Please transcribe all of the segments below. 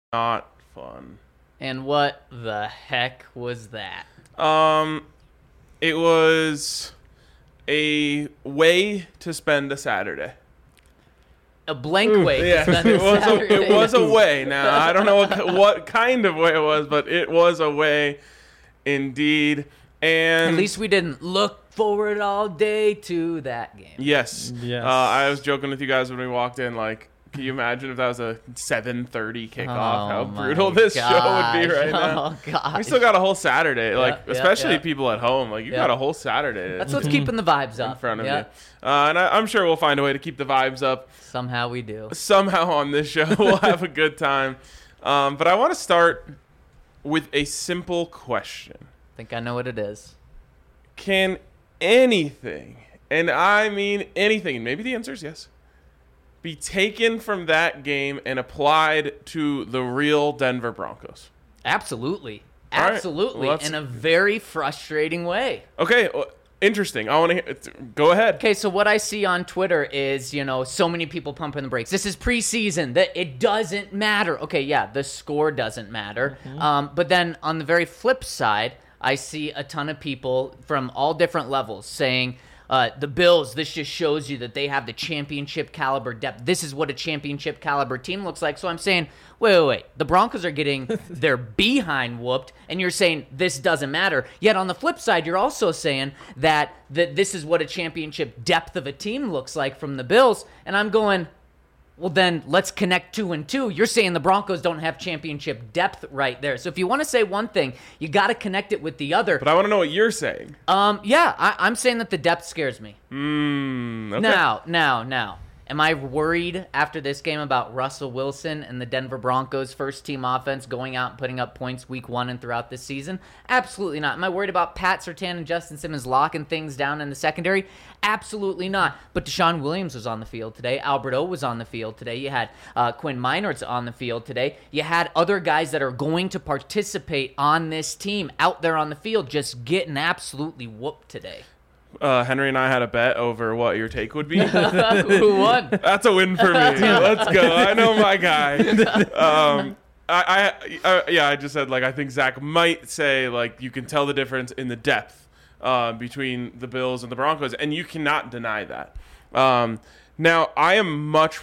not fun. And what the heck was that? It was a way to spend a Saturday. A blank way. Yeah, to spend a Saturday. it was a way. Now, I don't know what kind of way it was, but it was a way indeed. And At least we didn't look forward all day to that game. yes. Yes. I was joking with you guys when we walked in, like, can you imagine if that was a 7:30 kickoff? How my brutal this show would be right now. Oh, God. We still got a whole Saturday, like, yeah, especially yeah. people at home. Like, you got a whole Saturday That's what's keeping the vibes up. in front of Yeah. you. And I'm sure we'll find a way to keep the vibes up. Somehow we do. Somehow on this show, we'll have a good time. But I want to start with a simple question. I think I know what it is. Can anything, and I mean anything, and maybe the answer is yes, be taken from that game and applied to the real Denver Broncos? Absolutely. All right. Absolutely. Well, In a very frustrating way. Okay, interesting. I want to go ahead. Okay, so what I see on Twitter is, so many people pumping the brakes. This is preseason. That it doesn't matter. Okay, yeah, the score doesn't matter. But then on the very flip side, I see a ton of people from all different levels saying, the Bills, this just shows you that they have the championship caliber depth. This is what a championship caliber team looks like. So I'm saying, wait. The Broncos are getting their behind whooped, and you're saying this doesn't matter. Yet on the flip side, you're also saying that this is what a championship depth of a team looks like from the Bills. And I'm going, well, then let's connect 2 and 2. You're saying the Broncos don't have championship depth right there. So if you want to say one thing, you got to connect it with the other. But I want to know what you're saying. Yeah, I'm saying that the depth scares me. Okay. Now. Am I worried after this game about Russell Wilson and the Denver Broncos first team offense going out and putting up points week 1 and throughout this season? Absolutely not. Am I worried about Pat Surtain and Justin Simmons locking things down in the secondary? Absolutely not. But Deshaun Williams was on the field today. Albert O was on the field today. You had Quinn Meinerz on the field today. You had other guys that are going to participate on this team out there on the field just getting absolutely whooped today. Henry and I had a bet over what your take would be. Who won? That's a win for me. Let's go. I know my guy. I just said, like, I think Zach might say, like, you can tell the difference in the depth between the Bills and the Broncos, and you cannot deny that. Now, I'm much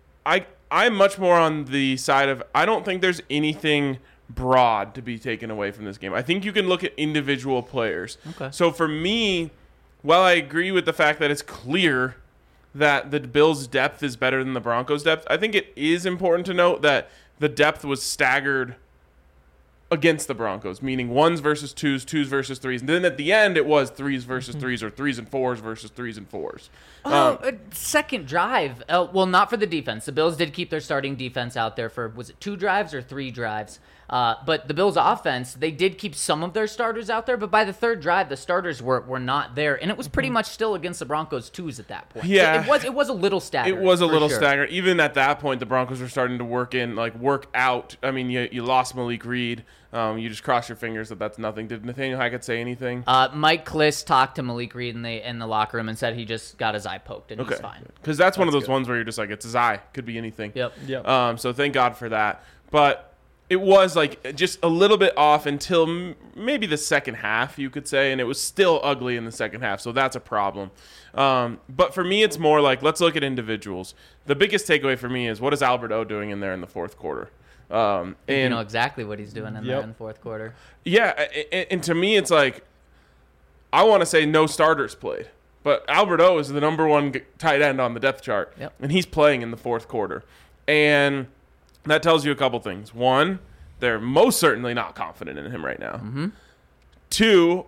more on the side of, I don't think there's anything broad to be taken away from this game. I think you can look at individual players. Okay. So for me, while I agree with the fact that it's clear that the Bills' depth is better than the Broncos' depth, I think it is important to note that the depth was staggered against the Broncos, meaning 1s versus 2s, 2s versus 3s. And then at the end, it was 3s versus 3s or 3s and 4s versus 3s and 4s. Second drive. Well, not for the defense. The Bills did keep their starting defense out there for, was it 2 drives or 3 drives? But the Bills' offense, they did keep some of their starters out there, but by the third drive, the starters were not there, and it was pretty much still against the Broncos' 2s at that point. Yeah. So it was a little staggered. It was a little sure. staggered. Even at that point, the Broncos were starting to work out. I mean, you lost Malik Reed. You just cross your fingers that that's nothing. Did Nathaniel Hackett say anything? Mike Kliss talked to Malik Reed in the locker room and said he just got his eye poked and he's fine. Because that's one of those ones where you're just like, it's his eye. Could be anything. Yep. So thank God for that. But it was like just a little bit off until maybe the second half, you could say, and it was still ugly in the second half. So that's a problem. But for me, it's more like, let's look at individuals. The biggest takeaway for me is, what is Albert O doing in there in the fourth quarter? And you know exactly what he's doing in there in the fourth quarter. Yeah, and to me, it's like, I want to say no starters played. But Albert O is the number one tight end on the depth chart, and he's playing in the fourth quarter. And that tells you a couple things. One, they're most certainly not confident in him right now. Mm-hmm. 2,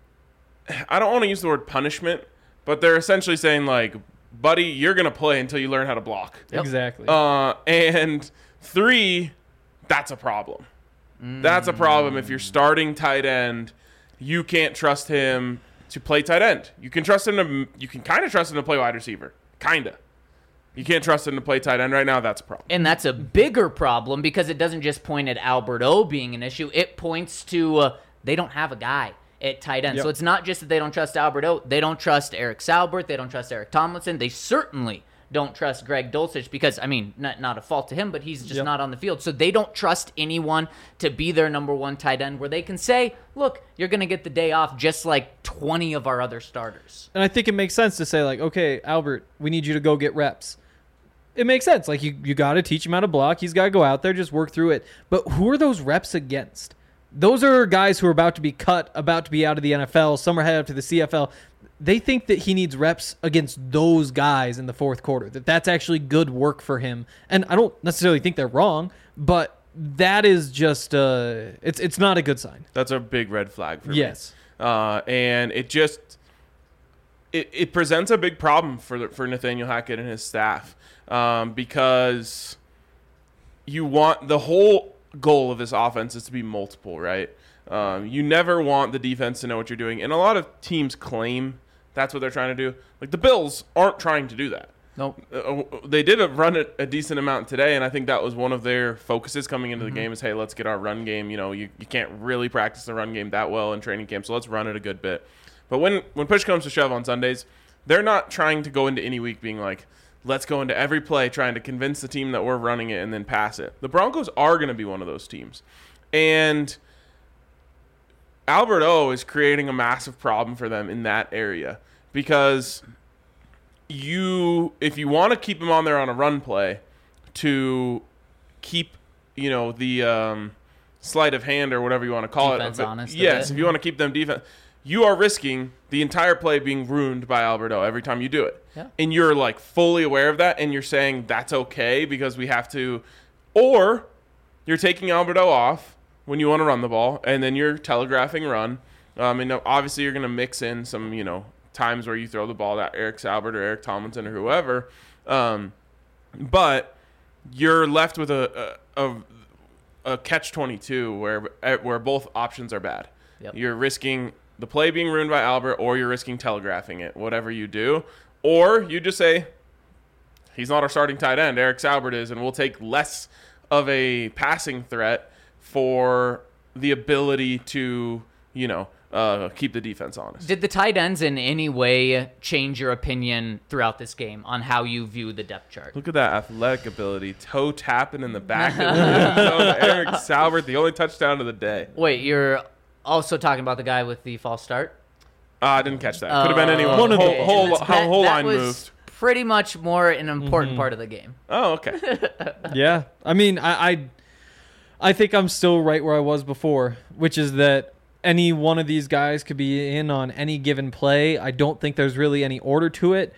I don't want to use the word punishment, but they're essentially saying, like, buddy, you're going to play until you learn how to block. Yep. Exactly. And 3, that's a problem. That's a problem if you're starting tight end. You can't trust him to play tight end. You can trust him to. You can kind of trust him to play wide receiver. Kinda. You can't trust him to play tight end right now. That's a problem. And that's a bigger problem because it doesn't just point at Albert O being an issue. It points to they don't have a guy at tight end. Yep. So it's not just that they don't trust Albert O. They don't trust Eric Salbert. They don't trust Eric Tomlinson. They certainly don't trust Greg Dulcich because, I mean, not a fault to him, but he's just not on the field. So they don't trust anyone to be their number one tight end where they can say, look, you're going to get the day off just like 20 of our other starters. And I think it makes sense to say, like, okay, Albert, we need you to go get reps. It makes sense. Like, you got to teach him how to block. He's got to go out there, just work through it. But who are those reps against? Those are guys who are about to be cut, about to be out of the NFL. Some are headed up to the CFL. They think that he needs reps against those guys in the fourth quarter, that's actually good work for him. And I don't necessarily think they're wrong, but that is just it's not a good sign. That's a big red flag for me. Yes. And it just it presents a big problem for Nathaniel Hackett and his staff, because you want the whole goal of this offense is to be multiple, right? You never want the defense to know what you're doing, and a lot of teams claim that's what they're trying to do. Like the Bills aren't trying to do that. Nope. They did run it a decent amount today, and I think that was one of their focuses coming into the game is, hey, let's get our run game. You know, you can't really practice the run game that well in training camp, so let's run it a good bit. But when push comes to shove on Sundays, they're not trying to go into any week being like, let's go into every play trying to convince the team that we're running it and then pass it. The Broncos are going to be one of those teams. And Albert O is creating a massive problem for them in that area because if you want to keep him on there on a run play to keep, the sleight of hand or whatever you want to call defense it. Honest yes, if you want to keep them defense, you are risking the entire play being ruined by Albert O every time you do it. Yeah. And you're like fully aware of that and you're saying that's okay because we have to, or you're taking Albert O off when you want to run the ball, and then you're telegraphing run. And obviously you're going to mix in some, times where you throw the ball at Eric Saubert or Eric Tomlinson or whoever. But you're left with a catch-22 where both options are bad. Yep. You're risking the play being ruined by Albert, or you're risking telegraphing it, whatever you do. Or you just say, he's not our starting tight end, Eric Saubert is, and we'll take less of a passing threat for the ability to, keep the defense honest. Did the tight ends in any way change your opinion throughout this game on how you view the depth chart? Look at that athletic ability. Toe tapping in the back of the end zone. Eric Saubert, the only touchdown of the day. Wait, you're also talking about the guy with the false start? I didn't catch that. Could have been anyone. One of the Whole line was moved. Pretty much more an important part of the game. Oh, okay. Yeah. I mean, I think I'm still right where I was before, which is that any one of these guys could be in on any given play. I don't think there's really any order to it.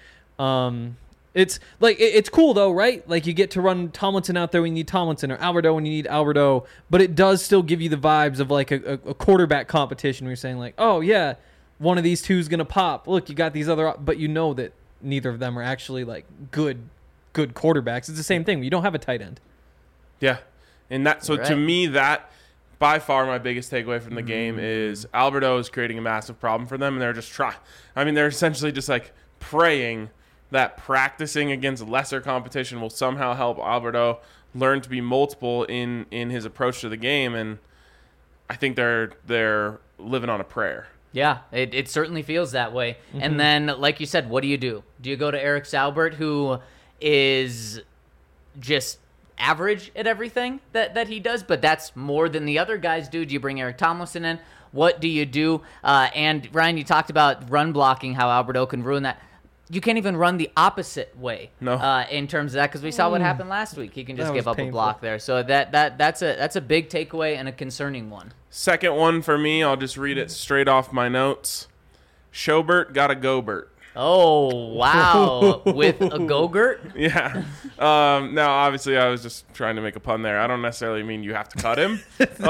It's like it's cool though, right? Like you get to run Tomlinson out there when you need Tomlinson, or Alberto when you need Alberto, but it does still give you the vibes of like a quarterback competition where you're saying like, oh yeah, one of these two is gonna pop. Look, you got these other, but you know that neither of them are actually like good quarterbacks. It's the same thing. You don't have a tight end. Yeah. And that, so to me, that by far my biggest takeaway from the game is Alberto is creating a massive problem for them, and they're just they're essentially just like praying that practicing against lesser competition will somehow help Alberto learn to be multiple in his approach to the game, and I think they're living on a prayer. Yeah, it certainly feels that way. Mm-hmm. And then, like you said, what do? Do you go to Eric Saubert, who is just average at everything that he does, but that's more than the other guys do? Do you bring Eric Tomlinson in? What do you do? And Ryan, you talked about run blocking, how Alberto can ruin that. You can't even run the opposite way. No. In terms of that, because we saw what happened last week. He can just give up painful. a block there. So that's a big takeaway and a concerning one. Second one for me, I'll just read it straight off my notes. Schobert got a Gobert. Oh, wow. With a Go-Gurt? Yeah. Now, obviously, I was just trying to make a pun there. I don't necessarily mean you have to cut him.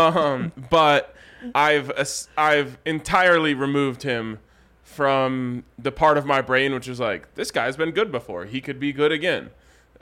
But I've entirely removed him from the part of my brain which is like, this guy's been good before. He could be good again.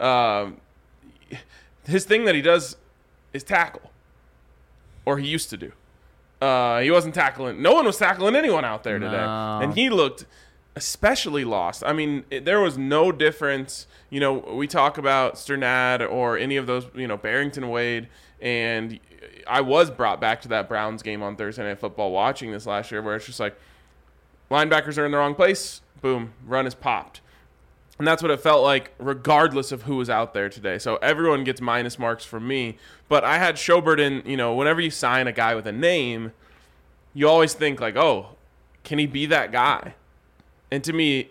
His thing that he does is tackle. Or he used to do. He wasn't tackling. No one was tackling anyone out there today. No. And he looked especially lost. I mean, there was no difference. We talk about Sternad or any of those, Barrington Wade, and I was brought back to that Browns game on Thursday Night Football watching this last year where it's just like linebackers are in the wrong place, boom, run is popped. And that's what it felt like regardless of who was out there today. So everyone gets minus marks from me. But I had Schobert in, whenever you sign a guy with a name, you always think like, oh, can he be that guy? And to me,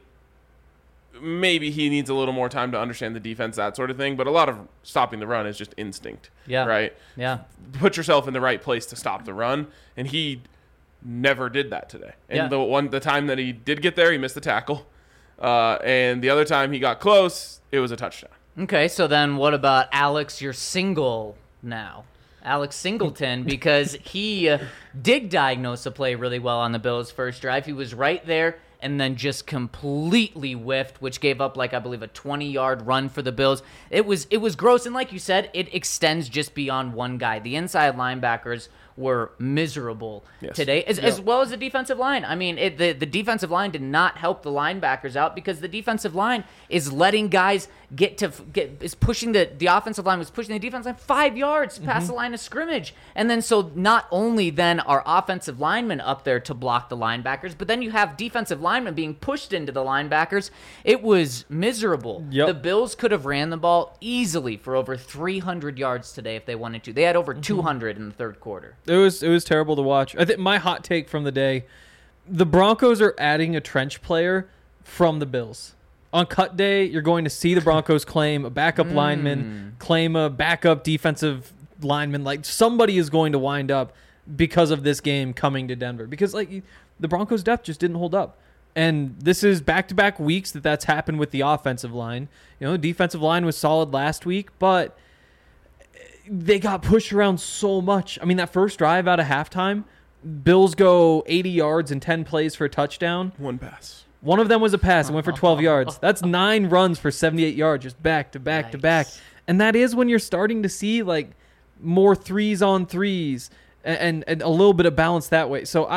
maybe he needs a little more time to understand the defense, that sort of thing. But a lot of stopping the run is just instinct. Yeah. Right? Yeah. Put yourself in the right place to stop the run. And he never did that today. And the time that he did get there, he missed the tackle. And the other time he got close, it was a touchdown. Okay, so then what about Alex, your single now? Alex Singleton, because he did diagnose a play really well on the Bills' first drive. He was right there and then just completely whiffed, which gave up, I believe, a 20-yard run for the Bills. It was gross, and like you said, it extends just beyond one guy. The inside linebackers were miserable today, as well as the defensive line. I mean, the defensive line did not help the linebackers out because the defensive line is letting guys pushing the offensive line was pushing the defensive line 5 yards past the line of scrimmage. And then so not only then are offensive linemen up there to block the linebackers, but then you have defensive linemen being pushed into the linebackers. It was miserable. Yep. The Bills could have ran the ball easily for over 300 yards today if they wanted to. They had over 200 in the third quarter. It was terrible to watch. I think my hot take from the day, the Broncos are adding a trench player from the Bills. On cut day, you're going to see the Broncos claim a backup lineman, claim a backup defensive lineman. Like, somebody is going to wind up because of this game coming to Denver. Because, the Broncos' depth just didn't hold up. And this is back-to-back weeks that's happened with the offensive line. The defensive line was solid last week, but they got pushed around so much. I mean, that first drive out of halftime, Bills go 80 yards and 10 plays for a touchdown. One pass. One of them was a pass and went for 12 yards. That's 9 runs for 78 yards, just back to back to back. And that is when you're starting to see more 3s-on-3s and a little bit of balance that way. So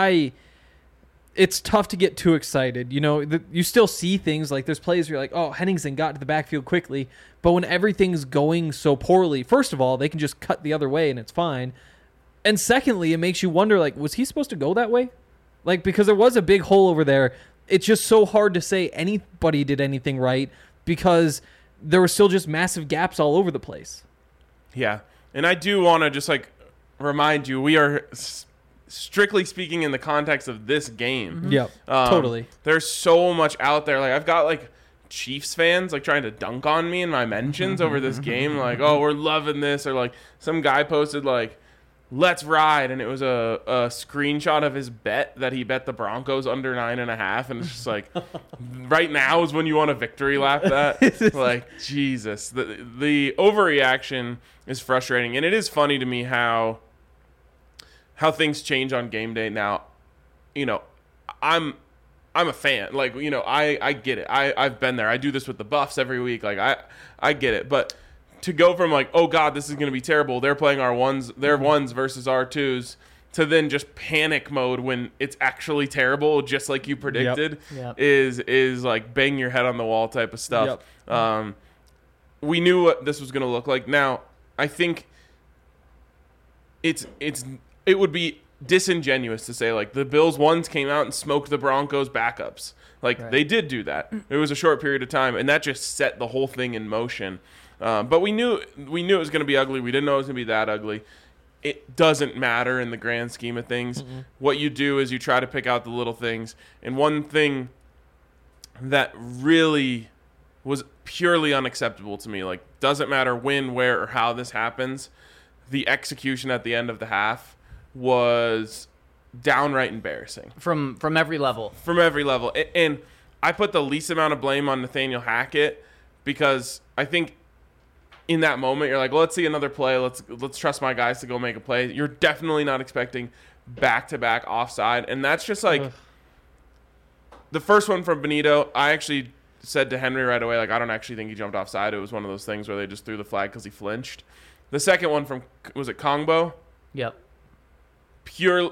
it's tough to get too excited. You still see things like there's plays where you're like, oh, Henningsen got to the backfield quickly. But when everything's going so poorly, first of all, they can just cut the other way and it's fine. And secondly, it makes you wonder, was he supposed to go that way? Because there was a big hole over there. It's just so hard to say anybody did anything right because there were still just massive gaps all over the place. Yeah. And I do want to just remind you, we are strictly speaking in the context of this game. Mm-hmm. Yep. Totally. There's so much out there. I've got Chiefs fans trying to dunk on me in my mentions over this game. Oh, we're loving this. Or some guy posted let's ride, and it was a screenshot of his bet that he bet the Broncos under 9.5, and it's just right now is when you want a victory lap. That Jesus, the overreaction is frustrating, and it is funny to me how things change on game day. Now, I'm a fan. I get it. I've been there. I do this with the Buffs every week. I get it, but to go from oh God, this is going to be terrible, they're playing their ones versus our twos, to then just panic mode when it's actually terrible, just like you predicted, is bang your head on the wall type of stuff. Yep. We knew what this was going to look like. Now, I think it would be disingenuous to say the Bills ones came out and smoked the Broncos backups. Right. They did do that. It was a short period of time, and that just set the whole thing in motion. But we knew it was going to be ugly. We didn't know it was going to be that ugly. It doesn't matter in the grand scheme of things. Mm-hmm. What you do is you try to pick out the little things. And one thing that really was purely unacceptable to me, doesn't matter when, where, or how this happens, the execution at the end of the half was downright embarrassing. From every level. From every level. And I put the least amount of blame on Nathaniel Hackett because I think in that moment, you're well, let's see another play. Let's trust my guys to go make a play. You're definitely not expecting back-to-back offside. And that's just the first one from Benito. I actually said to Henry right away, I don't actually think he jumped offside. It was one of those things where they just threw the flag because he flinched. The second one from, was it Kongbo? Yep. Pure,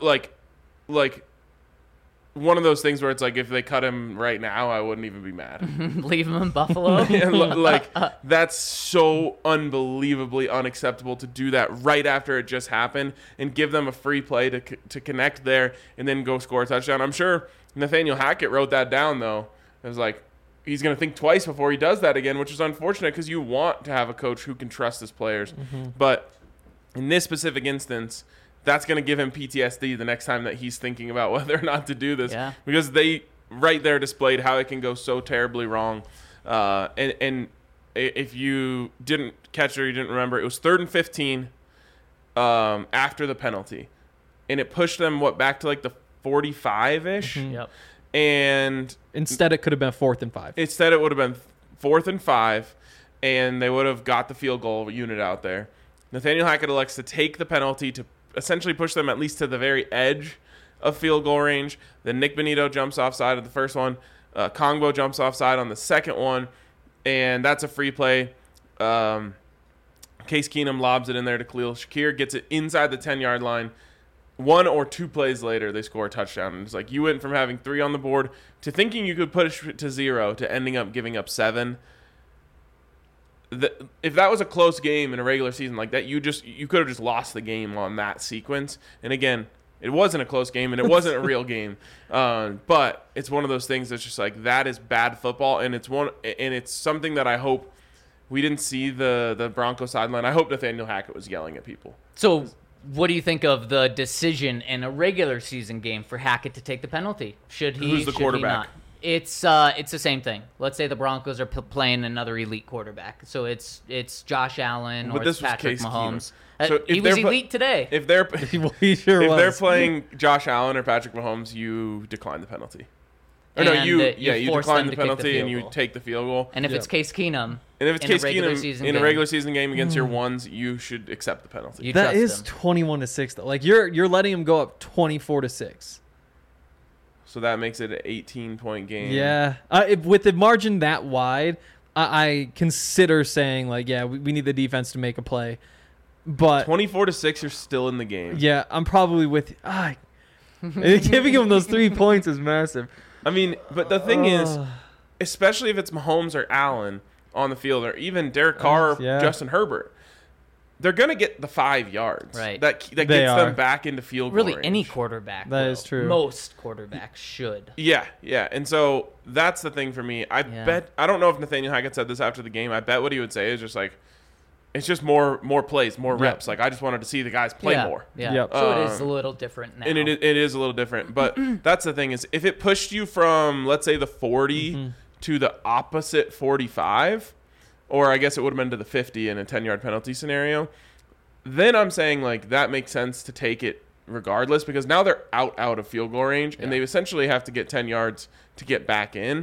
one of those things where it's if they cut him right now, I wouldn't even be mad. Leave him in Buffalo. That's so unbelievably unacceptable to do that right after it just happened and give them a free play to connect there and then go score a touchdown. I'm sure Nathaniel Hackett wrote that down, though. It was he's going to think twice before he does that again, which is unfortunate because you want to have a coach who can trust his players. But in this specific instance, that's going to give him PTSD the next time that he's thinking about whether or not to do this, because they right there displayed how it can go so terribly wrong. And if you didn't catch it or you didn't remember, it was 3rd and 15 after the penalty, and it pushed them back to like the 45-ish. Yep. And Instead, it could have been 4th and 5. instead it would have been 4th and 5, and they would have got the field goal unit out there. Nathaniel Hackett elects to take the penalty to essentially push them at least to the very edge of field goal range. Then Nick Benito jumps offside of the first one. Kongbo jumps offside on the second one, and that's a free play. Case Keenum lobs it in there to Khalil Shakir, gets it inside the 10-yard line. 1 or 2 plays later, they score a touchdown. And it's like you went from having 3 on the board to thinking you could push it to 0 to ending up giving up 7. If that was a close game in a regular season like that, you could have just lost the game on that sequence. And again, it wasn't a close game and it wasn't a real game. But it's one of those things that's just like, that is bad football, and it's something that I hope we didn't see the Broncos sideline. I hope Nathaniel Hackett was yelling at people. So what do you think of the decision in a regular season game for Hackett to take the penalty? Should he? Who's the should quarterback? He not? It's the same thing. Let's say the Broncos are playing another elite quarterback. So it's Josh Allen But or this it's was Patrick Case Mahomes. Keenum. So if he was they're elite today. If they're He sure if was. they're playing Josh Allen or Patrick Mahomes, you decline the penalty. Or no, And, you you force decline them the to kick the penalty field and you goal. take the field goal. And if it's Case Keenum, And if it's in a Case regular Keenum season in a game, regular season game against your ones, you should accept the penalty. you That trust is him. 21-6 though. Like you're letting him go up 24-6. So that makes it an 18-point game. Yeah. With the margin that wide, I consider saying like, yeah, we need the defense to make a play. But 24-6, you're still in the game. yeah, I'm probably with giving him those 3 points is massive. I mean, but the thing is, especially if it's Mahomes or Allen on the field, or even Derek Carr or yeah. Justin Herbert, they're going to get the 5 yards. Right. That They gets are. them back into field goal Really, range. any quarterback. That will. is true. Most quarterbacks should. Yeah. And so that's the thing for me. I don't know if Nathaniel Hackett said this after the game. I bet what he would say is just like, it's just more plays, more reps. Like, I just wanted to see the guys play more. Yeah. Yep. So it is a little different now. And it is a little different. But that's the thing is, if it pushed you from, let's say, the 40 to the opposite 45, or I guess it would have been to the 50 in a 10-yard penalty scenario, then I'm saying, like, that makes sense to take it regardless, because now they're out of field goal range, and they essentially have to get 10 yards to get back in.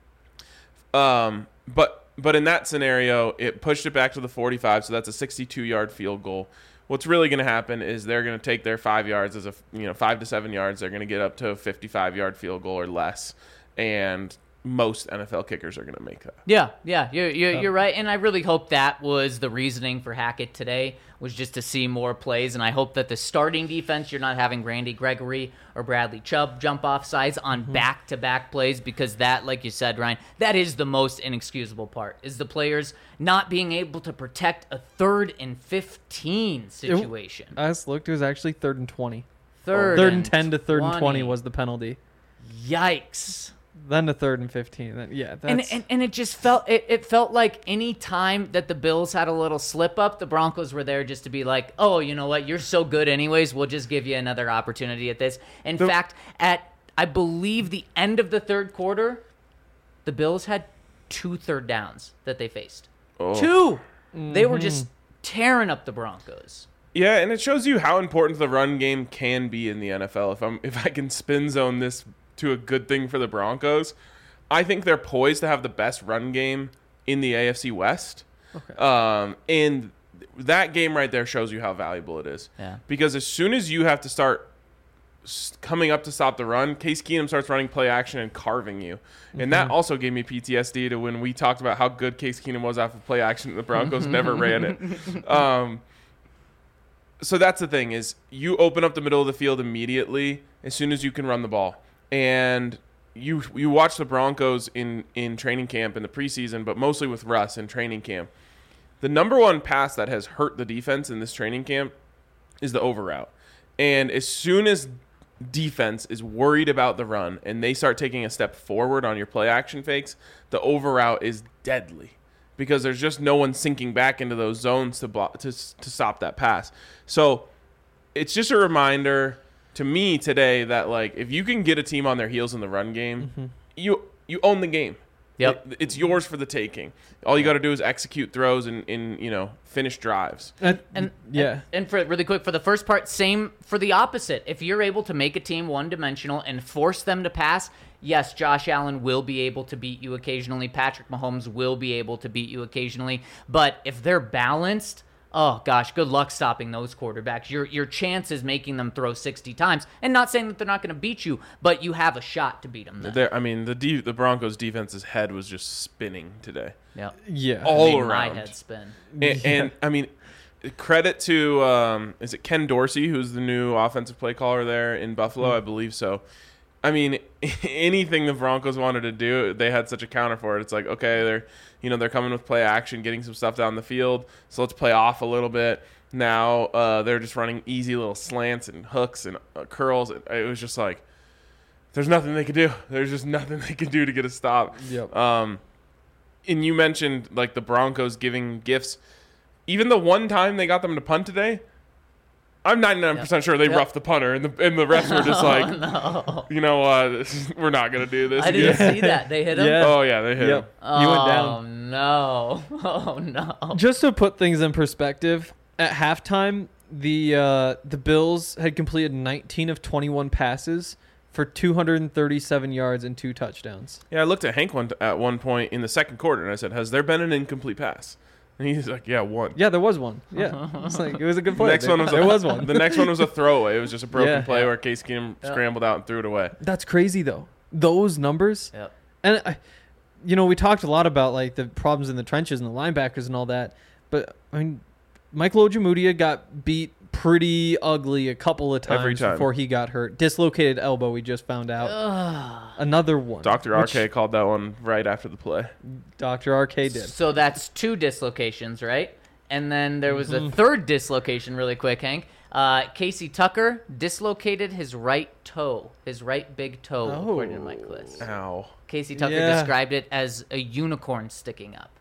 But in that scenario, it pushed it back to the 45, so that's a 62-yard field goal. What's really going to happen is they're going to take their 5 yards as 5 to 7 yards. They're going to get up to a 55-yard field goal or less, and most NFL kickers are going to make that. Yeah, you're right, and I really hope that was the reasoning for Hackett today, was just to see more plays, and I hope that the starting defense, you're not having Randy Gregory or Bradley Chubb jump off sides on back-to-back plays, because that, like you said, Ryan, that is the most inexcusable part, is the players not being able to protect a 3rd and 15 situation. I just looked. It was actually 3rd and 20. Third 3rd and 10 to 3rd and 20 was the penalty. Yikes. Then to 3rd and 15. Then, yeah, that's... And it just felt like any time that the Bills had a little slip up, the Broncos were there just to be like, oh, you know what, you're so good anyways, we'll just give you another opportunity at this. In fact, at I believe the end of the 3rd quarter, the Bills had 2 third downs that they faced. 2. They were just tearing up the Broncos. Yeah, and it shows you how important the run game can be in the NFL. If I can spin zone this to a good thing for the Broncos, I think they're poised to have the best run game in the AFC West. Okay. And that game right there shows you how valuable it is. Yeah. Because as soon as you have to start coming up to stop the run, Case Keenum starts running play action and carving you. And that also gave me PTSD to when we talked about how good Case Keenum was off of play action and the Broncos never ran it. So that's the thing, is you open up the middle of the field immediately as soon as you can run the ball. And you watch the Broncos in training camp in the preseason, but mostly with Russ in training camp. The number one pass that has hurt the defense in this training camp is the over route. And as soon as defense is worried about the run and they start taking a step forward on your play action fakes, the over route is deadly because there's just no one sinking back into those zones to block, to stop that pass. So it's just a reminder to me today that, like, if you can get a team on their heels in the run game, you own the game. Yep. It's yours for the taking. All you got to do is execute throws and finish drives. And for really quick, for the first part, same for the opposite. If you're able to make a team one-dimensional and force them to pass, yes, Josh Allen will be able to beat you occasionally. Patrick Mahomes will be able to beat you occasionally. But if they're balanced, oh gosh, good luck stopping those quarterbacks. Your chance is making them throw 60 times. And not saying that they're not going to beat you, but you have a shot to beat them then. I mean, the Broncos defense's head was just spinning today. Yeah. All Made around. my head spin. And I mean, credit to is it Ken Dorsey, who's the new offensive play caller there in Buffalo? I believe so. I mean, anything the Broncos wanted to do, they had such a counter for it. It's like, okay, they're coming with play action, getting some stuff down the field, so let's play off a little bit. Now they're just running easy little slants and hooks and curls. It was just like, there's nothing they could do. There's just nothing they could do to get a stop. Yep. And you mentioned, like, the Broncos giving gifts. Even the one time they got them to punt today, I'm 99% sure they roughed the punter, and the refs were just like, you know what, we're not gonna do this. I didn't see that. They hit him? Yeah. Oh yeah, they hit him. You went down. Oh no. Just to put things in perspective, at halftime, the Bills had completed 19 of 21 passes for 237 yards and 2 touchdowns. Yeah, I looked at Hank at one point in the second quarter, and I said, "Has there been an incomplete pass?" And he's like, "Yeah, one." Yeah, there was one. Yeah, it's like it was a good play. There was one. The next one was a throwaway. It was just a broken play where Case Keenum scrambled out and threw it away. That's crazy though. Those numbers. Yep. And we talked a lot about, like, the problems in the trenches and the linebackers and all that, but I mean, Michael Ojemudia got beat pretty ugly a couple of times before he got hurt. Dislocated elbow, we just found out. Another one. Dr. RK called that one right after the play. Dr. RK did. So that's 2 dislocations, right? And then there was a third dislocation really quick, Hank. Casey Tucker dislocated his right toe, his right big toe, according to Mike Kliss. Ow. Casey Tucker described it as a unicorn sticking up.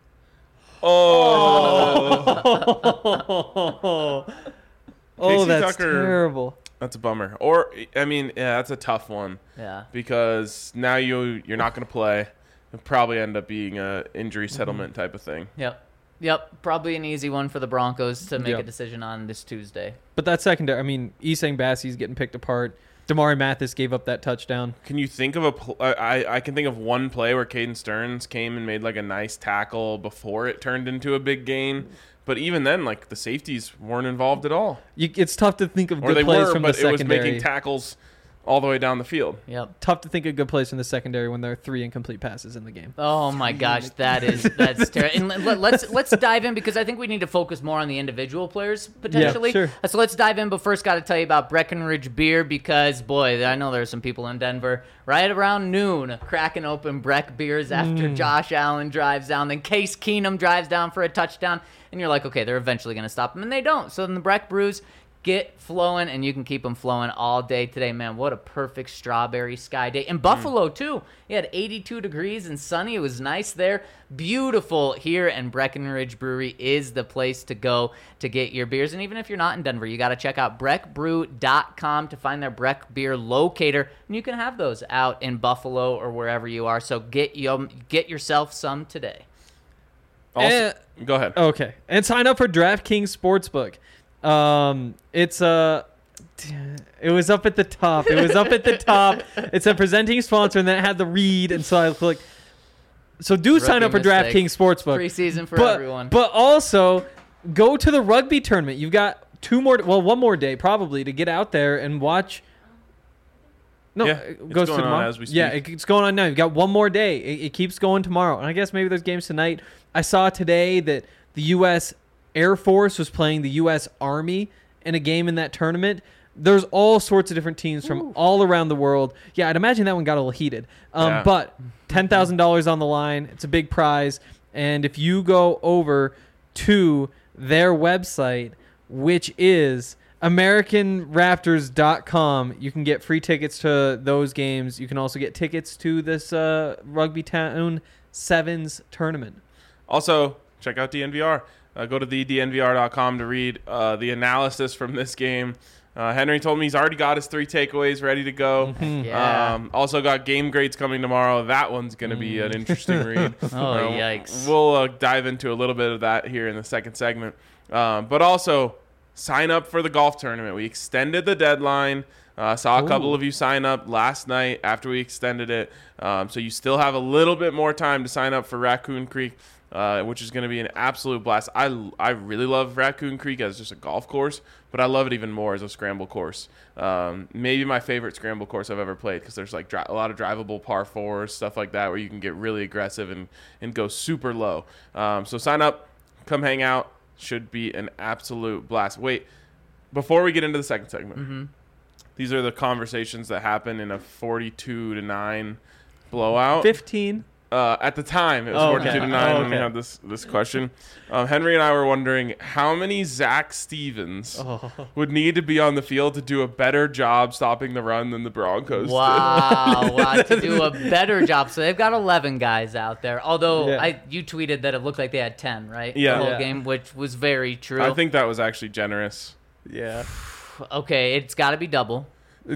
Oh, that's Tucker, terrible. That's a bummer. Or, I mean, yeah, that's a tough one. Yeah. Because now you're not going to play. It'll probably end up being a injury settlement type of thing. Yep. Probably an easy one for the Broncos to make a decision on this Tuesday. But that secondary, I mean, Isang Bassey's getting picked apart. Damari Mathis gave up that touchdown. Can you think of I can think of one play where Caden Stearns came and made, like, a nice tackle before it turned into a big gain. But even then, like, the safeties weren't involved at all. It's tough to think of or good plays from the but it was secondary. making tackles all the way down the field. Yep. Tough to think of good plays from the secondary when there are 3 incomplete passes in the game. Oh my gosh, that's terrible. And let's dive in, because I think we need to focus more on the individual players potentially. Yeah, sure. So let's dive in, but first got to tell you about Breckenridge Beer, because boy, I know there's some people in Denver right around noon cracking open Breck beers after Josh Allen drives down, then Case Keenum drives down for a touchdown, and you're like, okay, they're eventually going to stop him, and they don't. So then the Breck brews get flowing, and you can keep them flowing all day today. Man, what a perfect strawberry sky day. In Buffalo, too. You had 82 degrees and sunny. It was nice there. Beautiful here, and Breckenridge Brewery is the place to go to get your beers. And even if you're not in Denver, you got to check out breckbrew.com to find their Breck beer locator, and you can have those out in Buffalo or wherever you are. So get yourself some today. Also, go ahead. Okay. And sign up for DraftKings Sportsbook. It was up at the top. It's a presenting sponsor, and then it had the read, and so I clicked. So sign up for DraftKings Sportsbook. Preseason for everyone. But also go to the rugby tournament. You've got one more day probably to get out there and watch. No, it goes going tomorrow. on as we speak. Yeah, it's going on now. You've got one more day. It keeps going tomorrow, and I guess maybe there's games tonight. I saw today that the U.S. Air Force was playing the U.S. Army in a game in that tournament. There's all sorts of different teams from all around the world. Yeah, I'd imagine that one got a little heated. But $10,000 on the line. It's a big prize. And if you go over to their website, which is AmericanRaptors.com. You can get free tickets to those games. You can also get tickets to this Rugby Town Sevens tournament. Also, check out DNVR. Go to thednvr.com to read the analysis from this game. Henry told me he's already got his 3 takeaways ready to go. Yeah. Also got game grades coming tomorrow. That one's going to be an interesting read. Yikes. We'll dive into a little bit of that here in the second segment. But also, sign up for the golf tournament. We extended the deadline. Saw a couple of you sign up last night after we extended it. So you still have a little bit more time to sign up for Raccoon Creek, which is going to be an absolute blast. I really love Raccoon Creek as just a golf course, but I love it even more as a scramble course. Maybe my favorite scramble course I've ever played, because there's like a lot of drivable par fours, stuff like that, where you can get really aggressive and go super low. So sign up, come hang out. Should be an absolute blast. Wait, before we get into the second segment, these are the conversations that happen in a 42-9 blowout. 15. At the time, it was 42-9 when we had this question. Henry and I were wondering how many Zach Stevens would need to be on the field to do a better job stopping the run than the Broncos did. Wow, to do a better job. So they've got 11 guys out there. Although you tweeted that it looked like they had 10, right? Yeah. The whole game, which was very true. I think that was actually generous. Yeah. Okay, it's got to be double.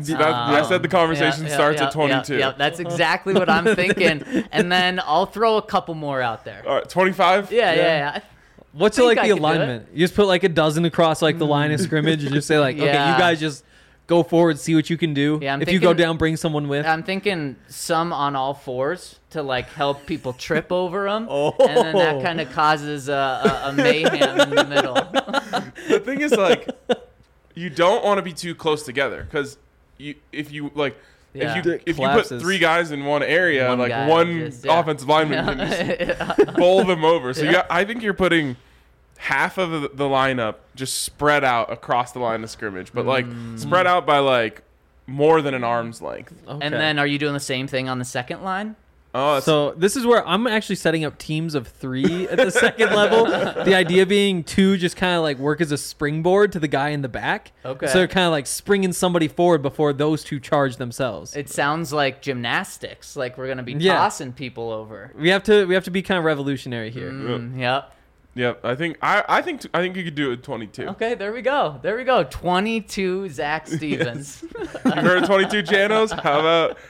I said the conversation starts at 22. Yeah, that's exactly what I'm thinking. And then I'll throw a couple more out there. All right, 25? Yeah. What's think like I the could do alignment? You just put like a dozen across like the line of scrimmage and just say like, okay, Yeah. you guys just go forward, see what you can do. Yeah, I'm if you go thinking- down, bring someone with. I'm thinking some on all fours to like help people trip over them, Oh. and then that kind of causes a mayhem in the middle. The thing is, like, you don't want to be too close together, because if you put Collapses. 3 guys in one area, One like guy one just- yeah. offensive lineman can just bowl them over. So I think you're putting half of the lineup just spread out across the line of scrimmage, but like spread out by like more than an arm's length. Okay. And then, are you doing the same thing on the second line? Oh, So this is where I'm actually setting up teams of 3 at the second level. The idea being 2 just kind of like work as a springboard to the guy in the back. Okay. So they're kind of like springing somebody forward before those 2 charge themselves. It sounds like gymnastics. Like we're gonna be Yeah. tossing people over. We have to be kind of revolutionary here. Yep. Yep, I think you could do it with 22. Okay, there we go. 22 Zach Stevens. You heard of 22 Janos? How about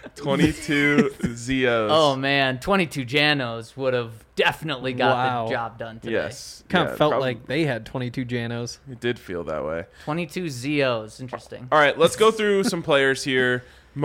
22 Zios? Oh man, 22 Janos would have definitely got Wow. the job done today. yes. Kind Yeah, of felt probably- like they had 22 Janos. it did feel that way. 22 Zios. Interesting. All right, let's go through some players here.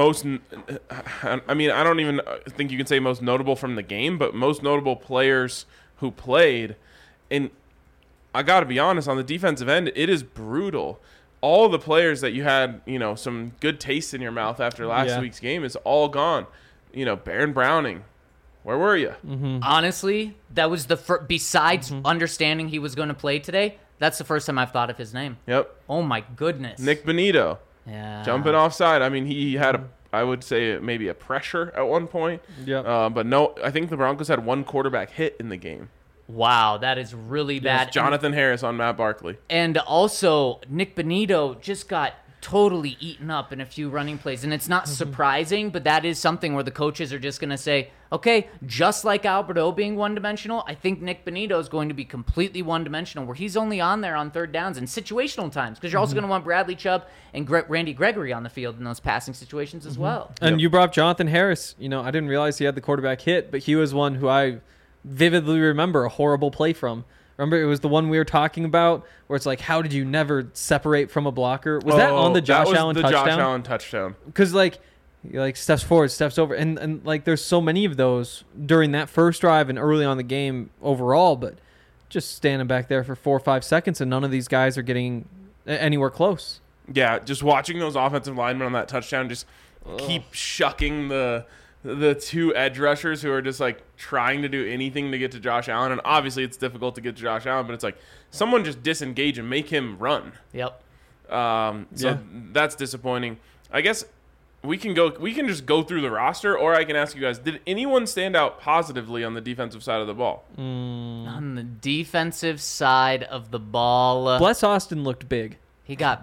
I mean, I don't even think you can say most notable from the game, but most notable players who played. And I got to be honest, on the defensive end, it is brutal. All the players that you had, some good taste in your mouth after last week's game is all gone. Baron Browning, where were you? Honestly, that was the besides understanding he was going to play today, that's the first time I've thought of his name. Yep. Oh my goodness. Nick Benito, Yeah. jumping offside. I mean, he had I would say maybe a pressure at one point. Yep. But no, I think the Broncos had 1 quarterback hit in the game. Wow, that is really bad. Jonathan Harris on Matt Barkley. And also, Nick Benito just got totally eaten up in a few running plays. And it's not surprising, but that is something where the coaches are just going to say, okay, just like Alberto being one-dimensional, I think Nick Benito is going to be completely one-dimensional, where he's only on there on third downs and situational times, because you're also going to want Bradley Chubb and Randy Gregory on the field in those passing situations as well. And you brought up Jonathan Harris. I didn't realize he had the quarterback hit, but he was one who I vividly remember a horrible play from. Remember, it was the one we were talking about where it's like, how did you never separate from a blocker? Was that on the Josh Allen touchdown? Josh Allen touchdown. Because he steps forward, steps over, and like there's so many of those during that first drive and early on the game overall, but just standing back there for 4 or 5 seconds and none of these guys are getting anywhere close. Yeah, just watching those offensive linemen on that touchdown just keep shucking the 2 edge rushers who are just like trying to do anything to get to Josh Allen. And obviously it's difficult to get to Josh Allen, but it's like someone just disengage and make him run. Yep. So that's disappointing. I guess we can just go through the roster, or I can ask you guys, did anyone stand out positively on the defensive side of the ball? On the defensive side of the ball, Bless Austin looked big. he got beat.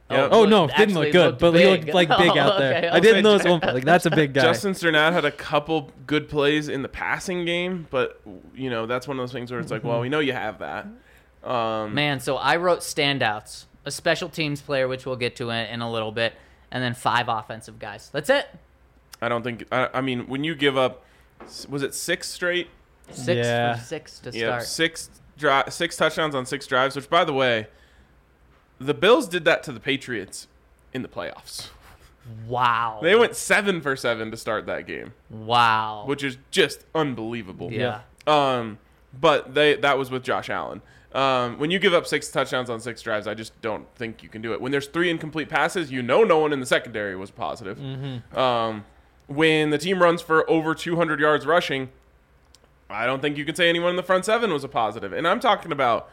Yep. Oh no, didn't actually look good, looked but he big. looked like big out there. Okay, I didn't notice one play. Like that's a big guy. Justin Sternad had a couple good plays in the passing game, but that's one of those things where it's like, well, we know you have that. Man, so I wrote standouts, a special teams player, which we'll get to in a little bit, and then 5 offensive guys. That's it. I don't think. I mean, when you give up, was it 6 straight? 6 Yeah. for 6 to Yeah, start. 6 touchdowns on 6 drives. Which, by the way, the Bills did that to the Patriots in the playoffs. Wow. They went 7 for 7 to start that game, Wow. which is just unbelievable. Yeah. But that was with Josh Allen. When you give up 6 touchdowns on 6 drives, I just don't think you can do it. When there's 3 incomplete passes, no one in the secondary was positive. When the team runs for over 200 yards rushing, I don't think you can say anyone in the front 7 was a positive. And I'm talking about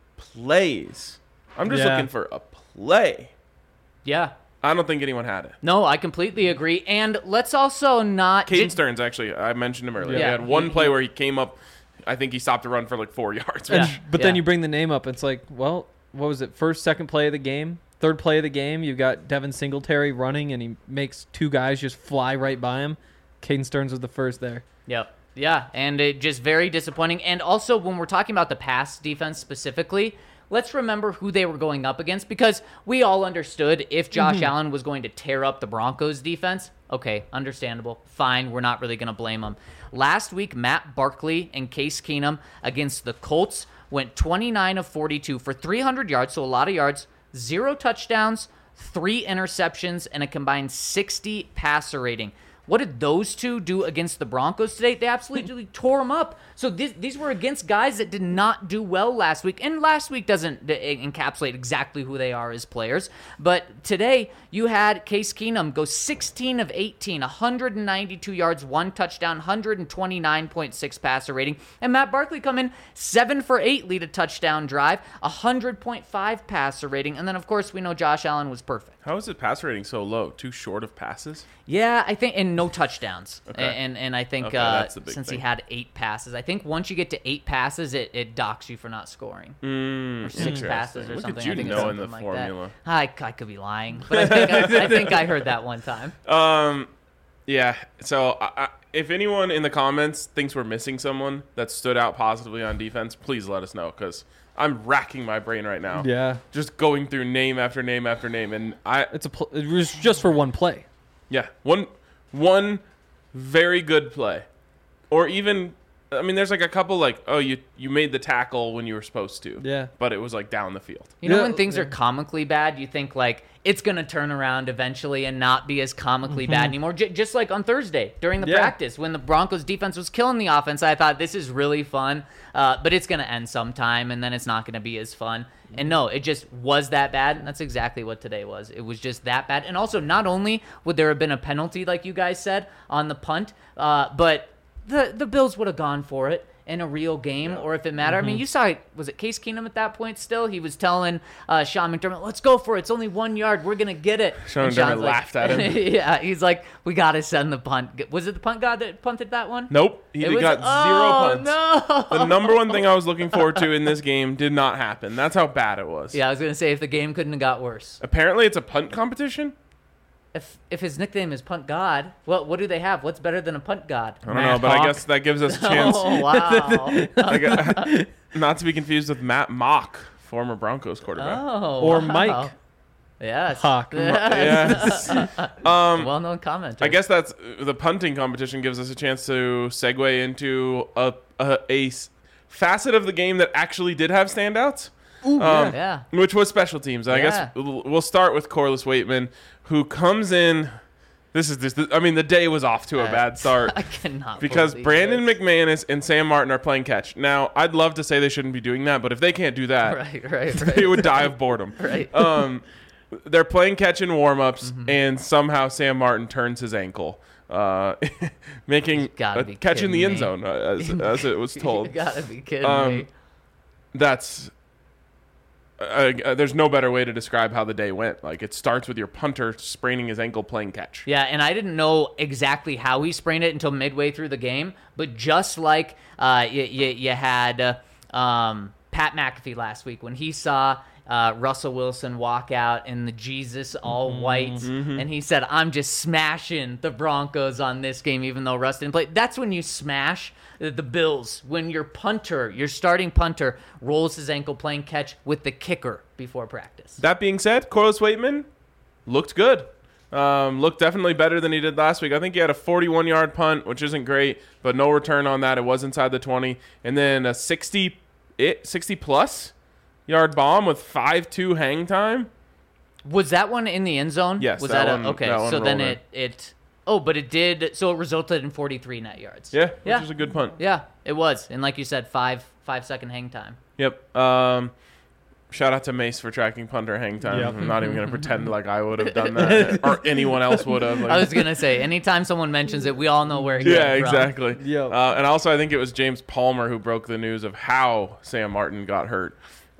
plays. I'm just looking for a play. Yeah. I don't think anyone had it. No, I completely agree. And let's also not... Caden Stearns, actually, I mentioned him earlier. Yeah. He had one play where he came up. I think he stopped to run for like 4 yards. Yeah. But then you bring the name up. It's like, well, what was it? First, second play of the game, third play of the game. You've got Devin Singletary running, and he makes 2 guys just fly right by him. Caden Stearns was the first there. Yep. Yeah, and it just very disappointing. And also, when we're talking about the pass defense specifically, let's remember who they were going up against, because we all understood if Josh Allen was going to tear up the Broncos defense. Okay, understandable. Fine, we're not really going to blame him. Last week, Matt Barkley and Case Keenum against the Colts went 29 of 42 for 300 yards, so a lot of yards, 0 touchdowns, 3 interceptions, and a combined 60 passer rating. What did those 2 do against the Broncos today? They absolutely tore them up. So these were against guys that did not do well last week. And last week doesn't encapsulate exactly who they are as players. But today, you had Case Keenum go 16 of 18, 192 yards, 1 touchdown, 129.6 passer rating. And Matt Barkley come in 7 for 8, lead a touchdown drive, 100.5 passer rating. And then, of course, we know Josh Allen was perfect. How is his passer rating so low? Too short of passes? Yeah, I think, and no touchdowns. Okay. And I think that's the big since thing. he had 8 passes, I think once you get to 8 passes, it docks you for not scoring. Or 6 passes or Look something. at you I think it's knowing something the like formula. that. I could be lying, but I think I heard that one time. Yeah. So if anyone in the comments thinks we're missing someone that stood out positively on defense, please let us know, because I'm racking my brain right now. Yeah. Just going through name after name after name, and It was just for one play. yeah, one very good play, or even, I mean, there's like a couple like, oh, you made the tackle when you were supposed to. Yeah. But it was like down the field. You know Yeah, when things yeah. are comically bad, you think like it's going to turn around eventually and not be as comically bad anymore. Just like on Thursday during the Yeah. practice when the Broncos defense was killing the offense, I thought this is really fun, but it's going to end sometime and then it's not going to be as fun. And no, it just was that bad. And that's exactly what today was. It was just that bad. And also, not only would there have been a penalty, like you guys said, on the punt, but the Bills would have gone for it in a real game, or if it mattered. I mean, you saw, was it Case Keenum at that point still? He was telling Sean McDermott, let's go for it. It's only 1 yard. We're going to get it. Sean And McDermott Sean's laughed at him. Yeah, he's like, we got to send the punt. Was it the punt god that punted that one? Nope. He It was- got 0 punts. No. The number one thing I was looking forward to in this game did not happen. That's how bad it was. Yeah, I was going to say, if the game couldn't have got worse. Apparently, it's a punt competition. If his nickname is Punt God, what do they have? What's better than a punt god? I don't know, but I guess that gives us a chance. Oh, wow. Not to be confused with Matt Mock, former Broncos quarterback. Oh, Or wow. Mike. Yes. Hawk. Yes. Well-known commenter. I guess that's the punting competition gives us a chance to segue into a facet of the game that actually did have standouts. Yeah. Which was special teams. I Yeah. guess we'll start with Corliss Waitman, who comes in. I mean, the day was off to a bad start. I cannot Because believe Brandon this. McManus and Sam Martin are playing catch. Now, I'd love to say they shouldn't be doing that, but if they can't do that, Right. they would die of boredom. Right. They're playing catch in warm-ups, Mm-hmm. and somehow Sam Martin turns his ankle, making gotta a be catch in the kidding end me. zone, as it was You told. gotta be kidding me. That's there's no better way to describe how the day went. Like, it starts with your punter spraining his ankle playing catch. Yeah, and I didn't know exactly how he sprained it until midway through the game. But just like you had Pat McAfee last week when he saw Russell Wilson walk out in the Jesus all white, and he said, "I'm just smashing the Broncos on this game, even though Russ didn't play." That's when you smash the Bills, when your starting punter, rolls his ankle playing catch with the kicker before practice. That being said, Corliss Waitman looked good. Looked definitely better than he did last week. I think he had a 41-yard punt, which isn't great, but no return on that. It was inside the 20. And then a 60-plus yard bomb with 5-2 hang time. Was that one in the end zone? Yes, Was that that one- okay? that one So then rolled but it did. So it resulted in 43 net yards. Yeah, which Yeah. was a good punt. Yeah, it was. And like you said, 5-second hang time. Yep. Shout out to Mace for tracking punter hang time. Yep. I'm not even going to pretend like I would have done that or anyone else would have. I was gonna say, anytime someone mentions it, we all know where it yeah, came from. exactly. Yep. And also, I think it was James Palmer who broke the news of how Sam Martin got hurt.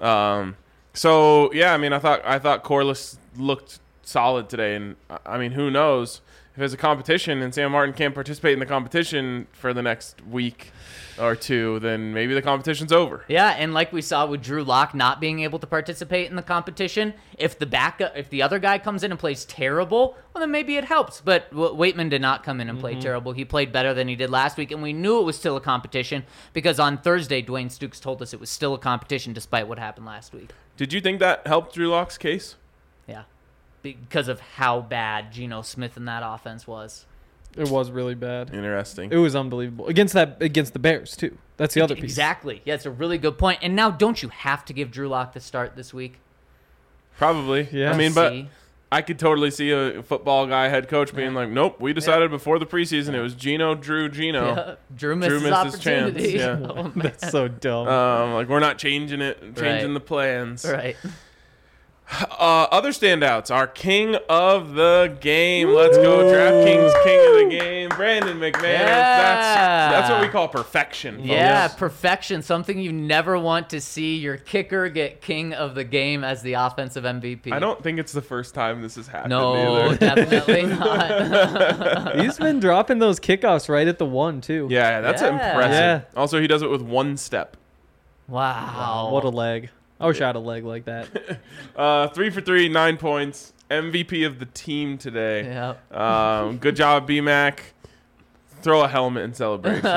So yeah, I mean, I thought Corliss looked solid today, and I mean, who knows if there's a competition and Sam Martin can't participate in the competition for the next week or two, then maybe the competition's over. Yeah, and like we saw with Drew Lock not being able to participate in the competition, if the other guy comes in and plays terrible, well, then maybe it helps. But Waitman did not come in and play terrible. He played better than he did last week, and we knew it was still a competition because on Thursday, Dwayne Stukes told us it was still a competition despite what happened last week. Did you think that helped Drew Lock's case? Yeah, because of how bad Geno Smith in that offense was. It was really bad. Interesting. It was unbelievable against the Bears too. That's the other piece. Exactly. Yeah, it's a really good point. And now, don't you have to give Drew Lock the start this week? Probably. Yeah. I mean, but See? I could totally see a football guy, head coach, being like, "Nope, we decided before the preseason it was Geno, Geno." Yeah. Drew missed his missed his chance, opportunity. yeah. Oh, man. That's so dumb. Like we're not changing the plans. Right. Other standouts, our king of the game. Let's go, DraftKings king of the game, Brandon McManus. Yeah. That's what we call perfection. Folks. Yeah, perfection. Something you never want to see your kicker get king of the game as the offensive MVP. I don't think it's the first time this has happened. No, either. definitely not. He's been dropping those kickoffs right at the one too. Yeah, that's Yeah. impressive. Yeah. Also, he does it with one step. Wow. What a leg. I wish I had a leg like that. 3 for 3, 9 points. MVP of the team today. Yeah. Good job, B-Mac. Throw a helmet in celebration.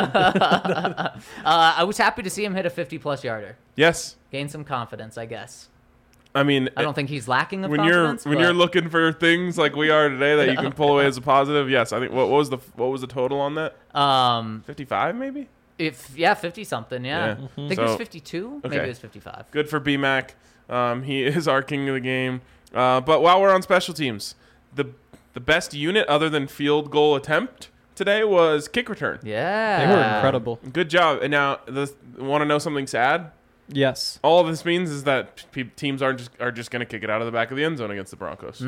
I was happy to see him hit a 50-plus yarder. Yes. Gain some confidence, I guess. I mean, I don't think he's lacking of when confidence. you're looking for things like we are today that you can pull away as a positive. Yes, I think what was the total on that? 55 maybe? 50 something, yeah. Yeah. I think it was 52. Maybe okay. it was 55. Good for B-Mac. He is our king of the game. But while we're on special teams, the best unit other than field goal attempt today was kick return. Yeah. They were incredible. Good job. And now, want to know something sad? Yes. All this means is that teams are just going to kick it out of the back of the end zone against the Broncos.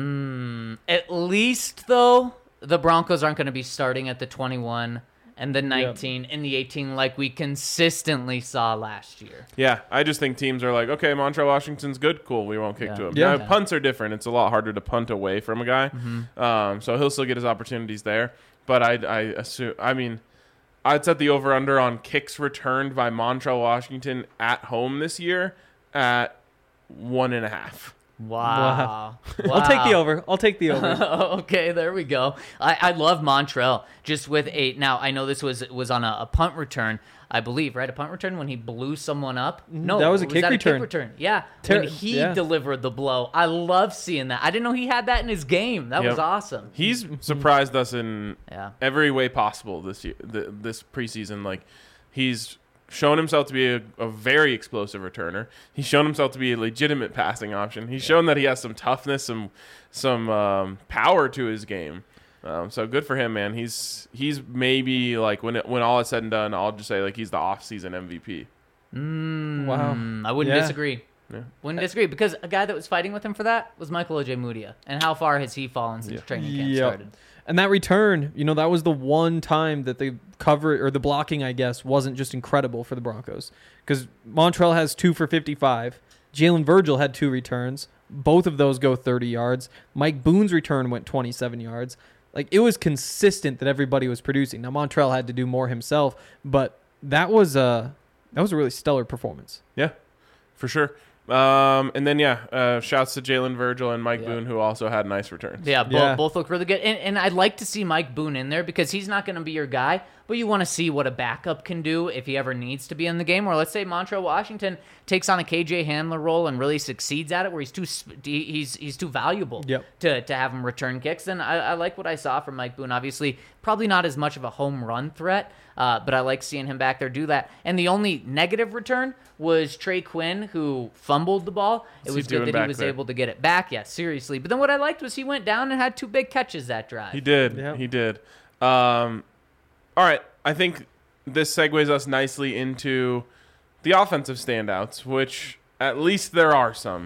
At least, though, the Broncos aren't going to be starting at the 21 and the 19 and the 18 like we consistently saw last year. Yeah, I just think teams are like, okay, Montrell Washington's good, cool, we won't kick Yeah. to him. Yeah. Now, punts are different. It's a lot harder to punt away from a guy, so he'll still get his opportunities there. But I assume, I mean, I'd set the over-under on kicks returned by Montrell Washington at home this year at 1.5. Wow. I'll take the over. I'll take the over. Okay, there we go. I love Montrell just with now I know this was on a punt return, I believe, right? A punt return when he blew someone up. No, That was a was kick that return. A kick return. Yeah, Ter- when he yeah. delivered the blow. I love seeing that. I didn't know he had that in his game. That was Yep. awesome. He's surprised us in Yeah. every way possible this year, this preseason. Like, he's shown himself to be a very explosive returner. He's shown himself to be a legitimate passing option. He's shown that he has some toughness, some power to his game. So good for him, man. He's maybe like when all is said and done, I'll just say like he's the off-season MVP. Wow. I wouldn't Yeah. disagree. Yeah. Wouldn't disagree because a guy that was fighting with him for that was Michael Ojemudia. And how far has he fallen since training camp Yep. started? And that return, that was the one time that the cover or the blocking, I guess, wasn't just incredible for the Broncos. Because Montrell has 2 for 55. Jalen Virgil had 2 returns. Both of those go 30 yards. Mike Boone's return went 27 yards. Like, it was consistent that everybody was producing. Now, Montrell had to do more himself, but that was a really stellar performance. Yeah, for sure. And then, shouts to Jalen Virgil and Mike Yeah. Boone, who also had nice returns. Yeah, Yeah. both look really good. And I'd like to see Mike Boone in there because he's not going to be your guy, but you want to see what a backup can do if he ever needs to be in the game. Or let's say Montrell Washington takes on a KJ Handler role and really succeeds at it, where he's too valuable Yep. to have him return kicks. Then I like what I saw from Mike Boone. Obviously, probably not as much of a home run threat, but I like seeing him back there do that. And the only negative return was Trey Quinn, who fumbled the ball. It What's was he good doing that he back was there? able to get it back. Yeah, seriously. But then what I liked was he went down and had 2 big catches that drive. He did. Yeah. He did. All right. I think this segues us nicely into the offensive standouts, which at least there are some.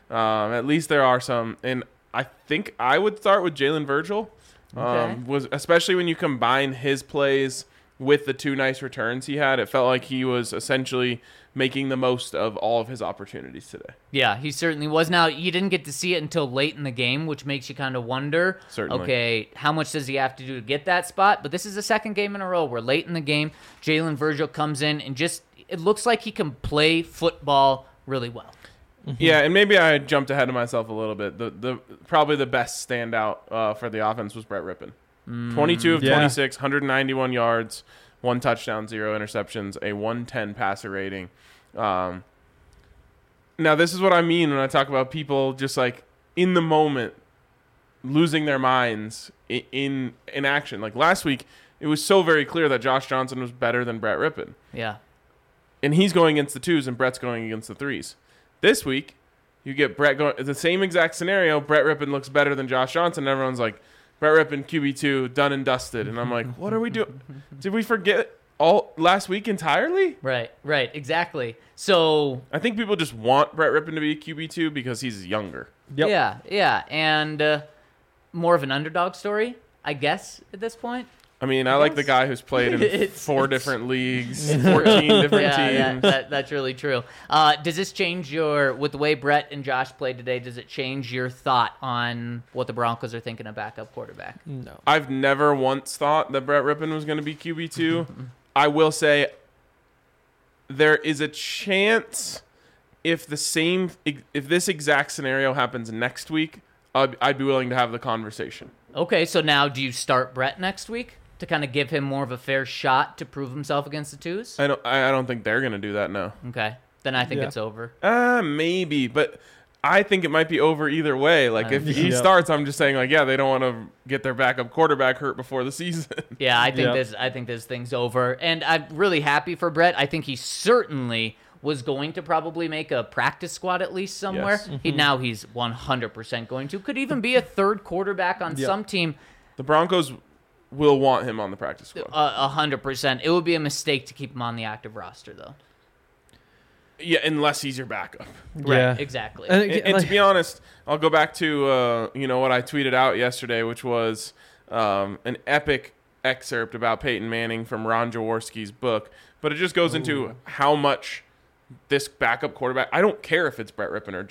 And I think I would start with Jalen Virgil. Okay. Was especially when you combine his plays with the 2 nice returns he had, it felt like he was essentially making the most of all of his opportunities today. Yeah, he certainly was. Now, you didn't get to see it until late in the game, which makes you kind of wonder, Certainly. okay, how much does he have to do to get that spot? But this is the second game in a row where late in the game, Jalen Virgil comes in and just, it looks like he can play football really well. Yeah, and maybe I jumped ahead of myself a little bit. The probably the best standout for the offense was Brett Rippin. 22 of Yeah. 26, 191 yards, 1 touchdown, 0 interceptions, a 110 passer rating. Now, this is what I mean when I talk about people just like in the moment losing their minds in action. Like last week, it was so very clear that Josh Johnson was better than Brett Rippin. Yeah. And he's going against the 2s and Brett's going against the 3s. This week, you get Brett going the same exact scenario. Brett Rippin looks better than Josh Johnson. And everyone's like, Brett Rippin, QB2, done and dusted. And I'm like, what are we doing? Did we forget all last week entirely? Right, exactly. So, I think people just want Brett Rippin to be a QB2 because he's younger. Yep. yeah. And more of an underdog story, I guess, at this point. I mean, I like the guy who's played in It's- 4 different leagues, 14 different Yeah, teams. that's really true. Does this change with the way Brett and Josh played today, does it change your thought on what the Broncos are thinking of backup quarterback? No. I've never once thought that Brett Rippin was going to be QB2. I will say there is a chance if this exact scenario happens next week, I'd be willing to have the conversation. Okay, so now do you start Brett next week to kind of give him more of a fair shot to prove himself against the 2s? I don't think they're going to do that, no. Okay, then I think Yeah. it's over. Maybe, but I think it might be over either way. Like, if he Yeah. starts, I'm just saying, like, yeah, they don't want to get their backup quarterback hurt before the season. Yeah, I think Yeah. this thing's over, and I'm really happy for Brett. I think he certainly was going to probably make a practice squad at least somewhere. Yes. Now he's 100% going to. Could even be a third quarterback on Yeah. some team. The Broncos will want him on the practice squad. 100%. It would be a mistake to keep him on the active roster, though. Yeah, unless he's your backup. Yeah. Right, exactly. And to be honest, I'll go back to what I tweeted out yesterday, which was an epic excerpt about Peyton Manning from Ron Jaworski's book. But it just goes into how much this backup quarterback. I don't care if it's Brett Rippin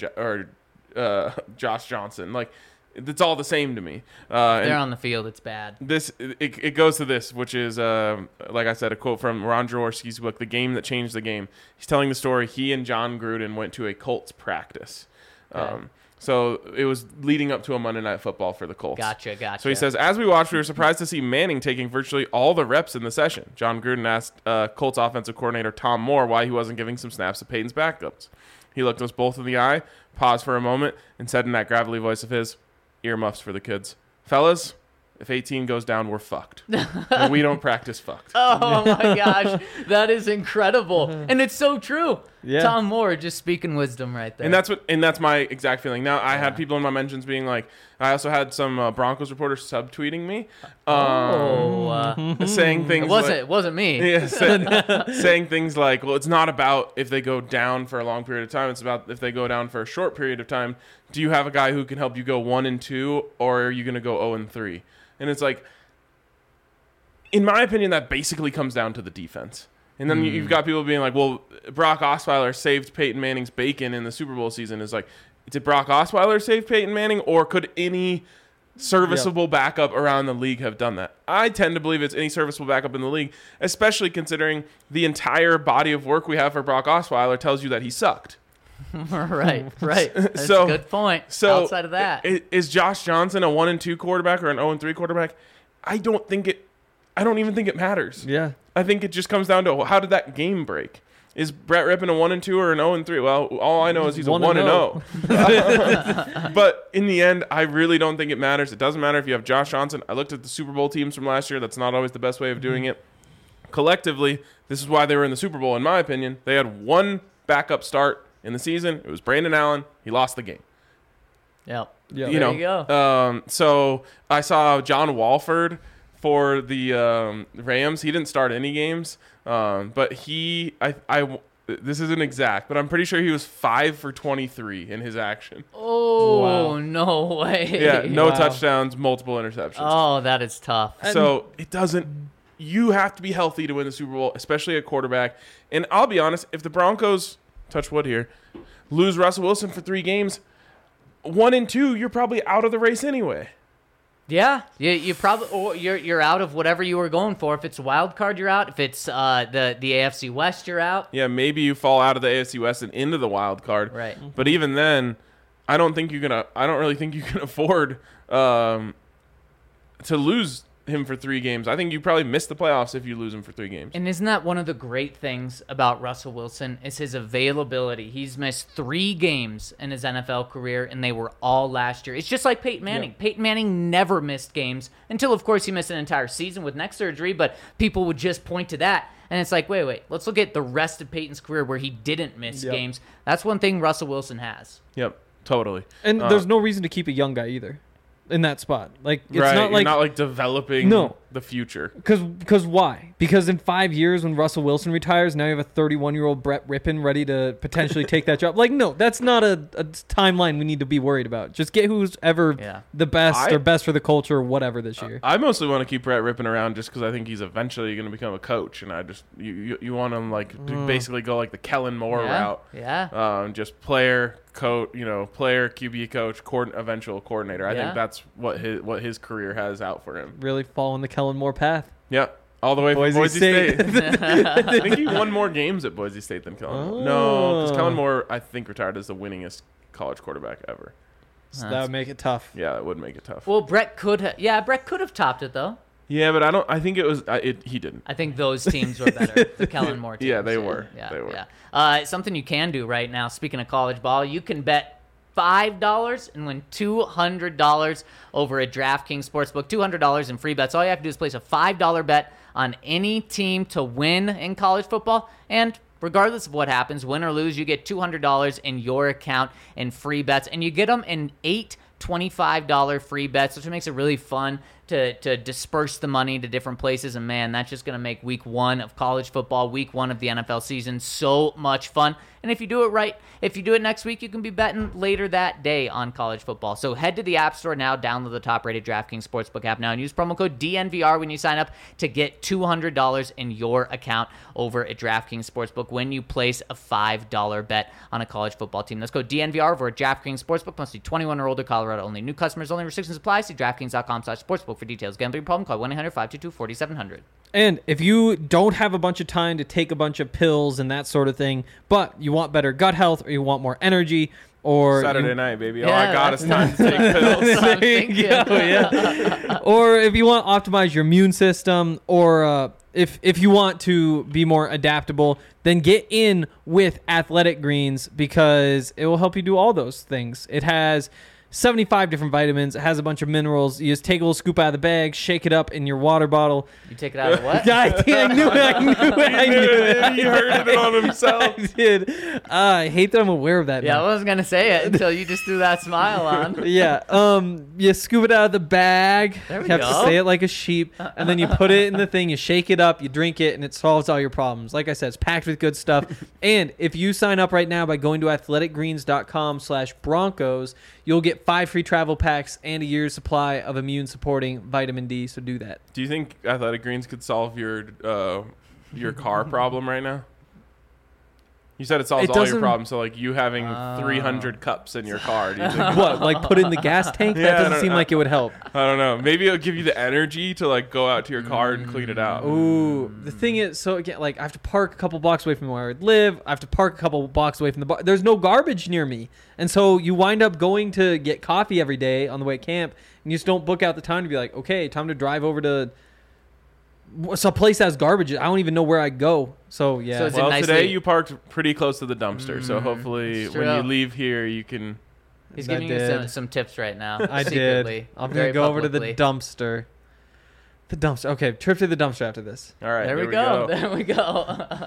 or Josh Johnson. Like, it's all the same to me. They're on the field. It's bad. It goes to this, which is like I said, a quote from Ron Jaworski's book, "The Game That Changed the Game." He's telling the story. He and John Gruden went to a Colts practice. Okay. So it was leading up to a Monday Night Football for the Colts. Gotcha. So he says, as we watched, we were surprised to see Manning taking virtually all the reps in the session. John Gruden asked Colts offensive coordinator Tom Moore why he wasn't giving some snaps to Peyton's backups. He looked us both in the eye, paused for a moment, and said in that gravelly voice of his, "Earmuffs for the kids. Fellas, if 18 goes down, we're fucked. And we don't practice fucked." Oh my gosh, that is incredible, and it's so true. Yeah. Tom Moore just speaking wisdom right there. And that's my exact feeling. Now, I had people in my mentions being like, I also had some Broncos reporters subtweeting me, saying things. it wasn't me. Yeah, saying things like, well, it's not about if they go down for a long period of time. It's about if they go down for a short period of time. Do you have a guy who can help you go 1-2, or are you going to go 0-3? And it's like, in my opinion, that basically comes down to the defense. And then you've got people being like, well, Brock Osweiler saved Peyton Manning's bacon in the Super Bowl season. It's like, did Brock Osweiler save Peyton Manning, or could any serviceable backup around the league have done that? I tend to believe it's any serviceable backup in the league, especially considering the entire body of work we have for Brock Osweiler tells you that he sucked. Right. That's So- a good point. So outside of that, is Josh Johnson a 1-2 quarterback or an 0-3 quarterback? I don't even think it matters. Yeah. I think it just comes down to how did that game break? Is Brett Rippon a 1-2 or an 0-3? Well, all I know is he's a 1-0. But in the end, I really don't think it matters. It doesn't matter if you have Josh Johnson. I looked at the Super Bowl teams from last year. That's not always the best way of doing it. Collectively, this is why they were in the Super Bowl, in my opinion. They had one backup start in the season. It was Brandon Allen. He lost the game. yep. Yeah. There you go. So I saw John Walford for the Rams. He didn't start any games, but this isn't exact, but I'm pretty sure he was 5 for 23 in his action. Oh, Wow. no way. Yeah, no Wow. touchdowns, multiple interceptions. Oh, that is tough. So it doesn't. You have to be healthy to win the Super Bowl, especially a quarterback. And I'll be honest, if the Broncos, touch wood here, lose Russell Wilson for 3 games, 1-2, you're probably out of the race anyway. Yeah, you probably or you're out of whatever you were going for. If it's a wild card, you're out. If it's the AFC West, you're out. Yeah, maybe you fall out of the AFC West and into the wild card. Right. But even then, I don't really think you can afford to lose him for 3 games. I think you probably miss the playoffs if you lose him for 3 games. And isn't that one of the great things about Russell Wilson is his availability? He's missed 3 games in his NFL career, and they were all last year. It's just like Peyton Manning. Yeah. Peyton Manning never missed games until, of course, he missed an entire season with neck surgery, but people would just point to that. And it's like, wait, let's look at the rest of Peyton's career where he didn't miss Yep. games. That's one thing Russell Wilson has. Yep, totally. And there's no reason to keep a young guy either in that spot. Like, it's right, not you're like not like developing No. the future. Because why? Because in 5 years, when Russell Wilson retires, now you have a 31-year-old Brett Rippon ready to potentially take that job. Like, no, that's not a timeline we need to be worried about. Just get who's ever the best or best for the culture or whatever this year. I mostly want to keep Brett Rippon around just because I think he's eventually going to become a coach, and I just you want him to basically go like the Kellen Moore route. Yeah. Just player, coach, player, QB coach, eventual coordinator. I Yeah. think that's what his career has out for him. Really following the Kellen Moore path. Yeah, all the way from Boise Boise State. State. I think he won more games at Boise State than Kellen Moore. No, because Oh. Kellen Moore, I think, retired as the winningest college quarterback ever. So that would make it tough. Yeah, that would make it tough. Well, Brett could have topped it, though. Yeah, but I think it was. He didn't. I think those teams were better. The Kellen Moore teams. Yeah, they were. Yeah, They were. Yeah. Something you can do right now, speaking of college ball, you can bet $5 and win $200 over at DraftKings Sportsbook. $200 in free bets. All you have to do is place a $5 bet on any team to win in college football, and regardless of what happens, win or lose, you get $200 in your account in free bets, and you get them in 8 $25 free bets, which makes it really fun to disperse the money to different places. And man, that's just going to make week 1 of college football, week 1 of the NFL season so much fun. And if you do it right, if you do it next week, you can be betting later that day on college football. So head to the App Store now, download the top-rated DraftKings Sportsbook app now, and use promo code DNVR when you sign up to get $200 in your account over at DraftKings Sportsbook when you place a $5 bet on a college football team. That's code DNVR over at DraftKings Sportsbook. Must be 21 or older, Colorado only. New customers only. Restrictions apply. See DraftKings.com/sportsbook for details. Gambling problem? Call 1-800-522-4700. And if you don't have a bunch of time to take a bunch of pills and that sort of thing, but you want better gut health or you want more energy or Saturday night, baby. All Yeah, I got is time that's- to take pills. That's what I'm There you thinking. go, yeah. Or if you want to optimize your immune system, or if you want to be more adaptable, then get in with Athletic Greens because it will help you do all those things. It has 75 different vitamins. It has a bunch of minerals. You just take a little scoop out of the bag, shake it up in your water bottle. You take it out of what? I knew it. He heard it on himself. I did. I hate that I'm aware of that Yeah, I now. wasn't gonna say it until you just threw that smile on. Yeah. You scoop it out of the bag. There we You have go. to say it like a sheep, and then you put it in the thing. You shake it up. You drink it, and it solves all your problems. Like I said, it's packed with good stuff. And if you sign up right now by going to athleticgreens.com/Broncos, you'll get 5 free travel packs and a year's supply of immune-supporting vitamin D. So do that. Do you think Athletic Greens could solve your car problem right now? You said it solves It all your doesn't- problems. So like you having 300 cups in your car. Do you think? What, like put in the gas tank? Yeah, That I doesn't don't- seem like it would help. I don't know. Maybe it'll give you the energy to like go out to your car and clean it out. Ooh, the thing is, so again, like I have to park a couple blocks away from where I would live. I have to park a couple blocks away from the bar. There's no garbage near me, and so you wind up going to get coffee every day on the way to camp, and you just don't book out the time to be like, okay, time to drive over to some place that has garbage. I don't even know where I go. So yeah, So it's Well, nicely- today you parked pretty close to the dumpster, so hopefully It's when you true. leave here, you can. He's I giving you did. some tips right now. I secretly, did. I'm very gonna go over to the publicly. dumpster. The dumpster. Okay, trip to the dumpster after this. All right, There here we go. There we go.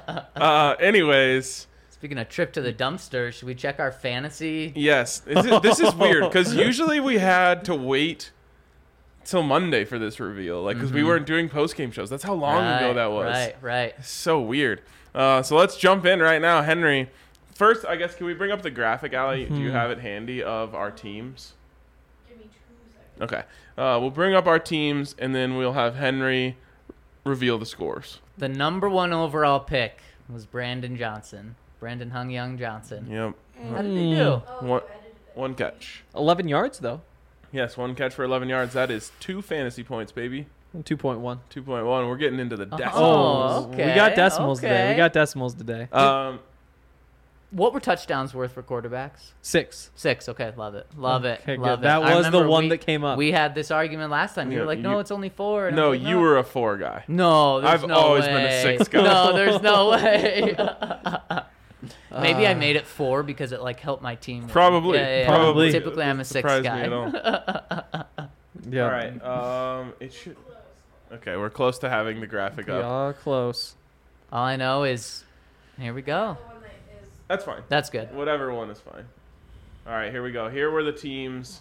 Anyways, Speaking of trip to the dumpster, should we check our fantasy? yes, this is weird because usually we had to wait till Monday for this reveal, like because we weren't doing post game shows. That's how long ago that was. Right. So weird. So let's jump in right now, Henry. First, I guess, can we bring up the graphic, Allie? Do you have it handy of our teams? Give me 2 seconds. Okay. We'll bring up our teams, and then we'll have Henry reveal the scores. The number 1 overall pick was Brandon Johnson. Brandon Hung Young Johnson. Yep. How did he do? Oh, One- you edited it. One catch. 11 yards though. Yes, one catch for 11 yards. That is 2 fantasy points, baby. 2.1. 2.1. We're getting into the decimals. Oh, we okay, got decimals today. okay. We got decimals today. What were touchdowns worth for quarterbacks? 6. 6. Okay, love it. Love it. Okay, Love good. it. That I was the remember one that came up. We had this argument last time. You were Yeah, like, no, you- it's only 4. And I No, was like, you were a 4 guy. No, there's I've no always way. been a 6 guy. No, there's no way. Maybe I made it 4 because it like helped my team. win. Probably. Yeah. Probably. Typically, I'm a 6 Surprised guy. me at all. Yeah. All right. It should. Okay, we're close to having the graphic We up. are close. All I know is, here we go. The one that is That's fine. That's good. Whatever one is fine. All right, here we go. Here were the teams.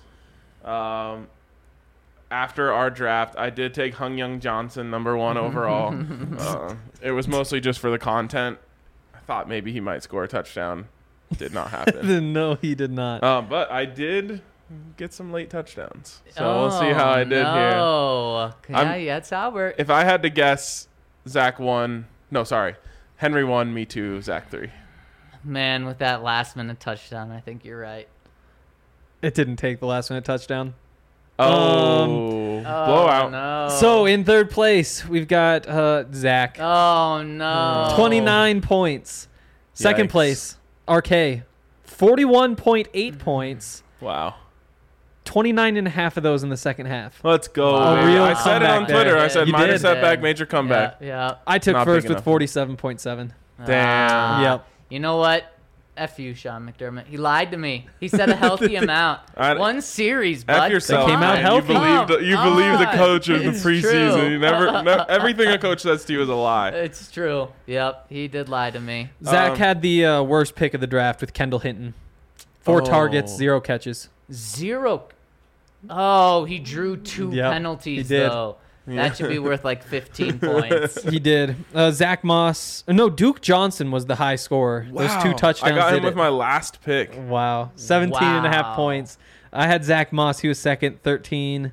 After our draft, I did take Hung Young Johnson, number 1 overall. It was mostly just for the content. I thought maybe he might score a touchdown. Did not happen. No, he did not. But I did get some late touchdowns. So we'll see how I did here. Oh, yeah, I'm- it's Albert. If I had to guess, Zach won. No, sorry. Henry won, me 2, Zach 3. Man, with that last minute touchdown, I think you're right. It didn't take the last minute touchdown. Oh, blowout. Oh, no. So in third place, we've got Zach. Oh, no. 29 points. Second Yikes. place, RK. 41.8 points. Wow. 29 and a half of those in the second half. Let's go. Wow. baby. Real I said it on comeback Twitter. there. I said You minor did. setback, major comeback. Yeah. I took Not first big with enough. 47.7. Damn. Yep. You know what? F you, Sean McDermott. He lied to me. He said a healthy amount. I- One series, bud. F yourself. They came out man. healthy. You believed the coach of the It's preseason. true. You everything a coach says to you is a lie. It's true. Yep, he did lie to me. Zach had the worst pick of the draft with Kendall Hinton. 4 Oh. targets, 0 catches. 0. Oh, he drew 2 Yep, penalties, he did. though. That should be worth like 15 points. He did. Zach Moss. No, Duke Johnson was the high scorer. Those 2 touchdowns I got did him with it. my last pick. Wow. 17 and a half Wow. points. I had Zach Moss. He was second, 13.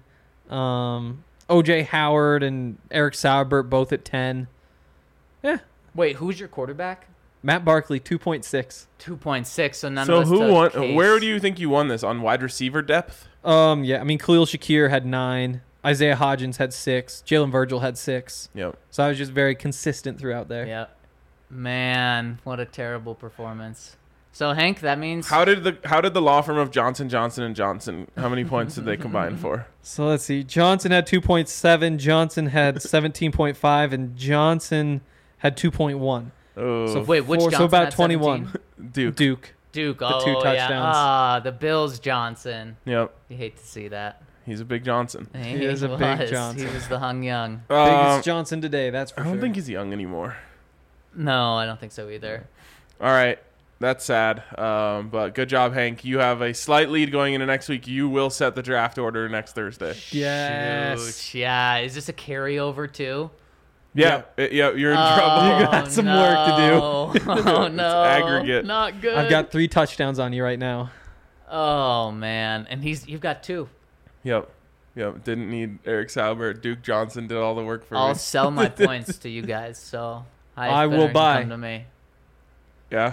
OJ Howard and Eric Saubert both at 10. Yeah. Wait, who's your quarterback? Matt Barkley, 2.6. 2.6, so none So of us who took won? Case. Where do you think you won this on wide receiver depth? Yeah, I mean, Khalil Shakir had 9. Isaiah Hodgins had 6. Jalen Virgil had 6. Yep. So I was just very consistent throughout there. Yep. Man, what a terrible performance. So Hank, that means How did the law firm of Johnson and Johnson? How many points did they combine for? So let's see. Johnson had 2.7. Johnson had 17.5. And Johnson had 2.1. Oh, So wait, which So Johnson about had 21. 17? Duke. Duke. Duke. The Oh, 2 yeah. touchdowns. Ah, the Bills Johnson. Yep. You hate to see that. He's a big Johnson. He is a big was. Johnson. He was the Hung Young. Biggest Johnson today, that's for I don't sure. think he's young anymore. No, I don't think so either. All right. That's sad. But good job, Hank. You have a slight lead going into next week. You will set the draft order next Thursday. Yes. Shoot. Yeah. Is this a carryover too? Yeah. Yeah, you're in trouble. You got some work to do. Oh no. aggregate. Not good. I've got 3 touchdowns on you right now. Oh man, and you've got 2. Yep. Didn't need Eric Saubert. Duke Johnson did all the work for I'll me. sell my points to you guys. So I will highest bidder can buy. Come to me. Yeah.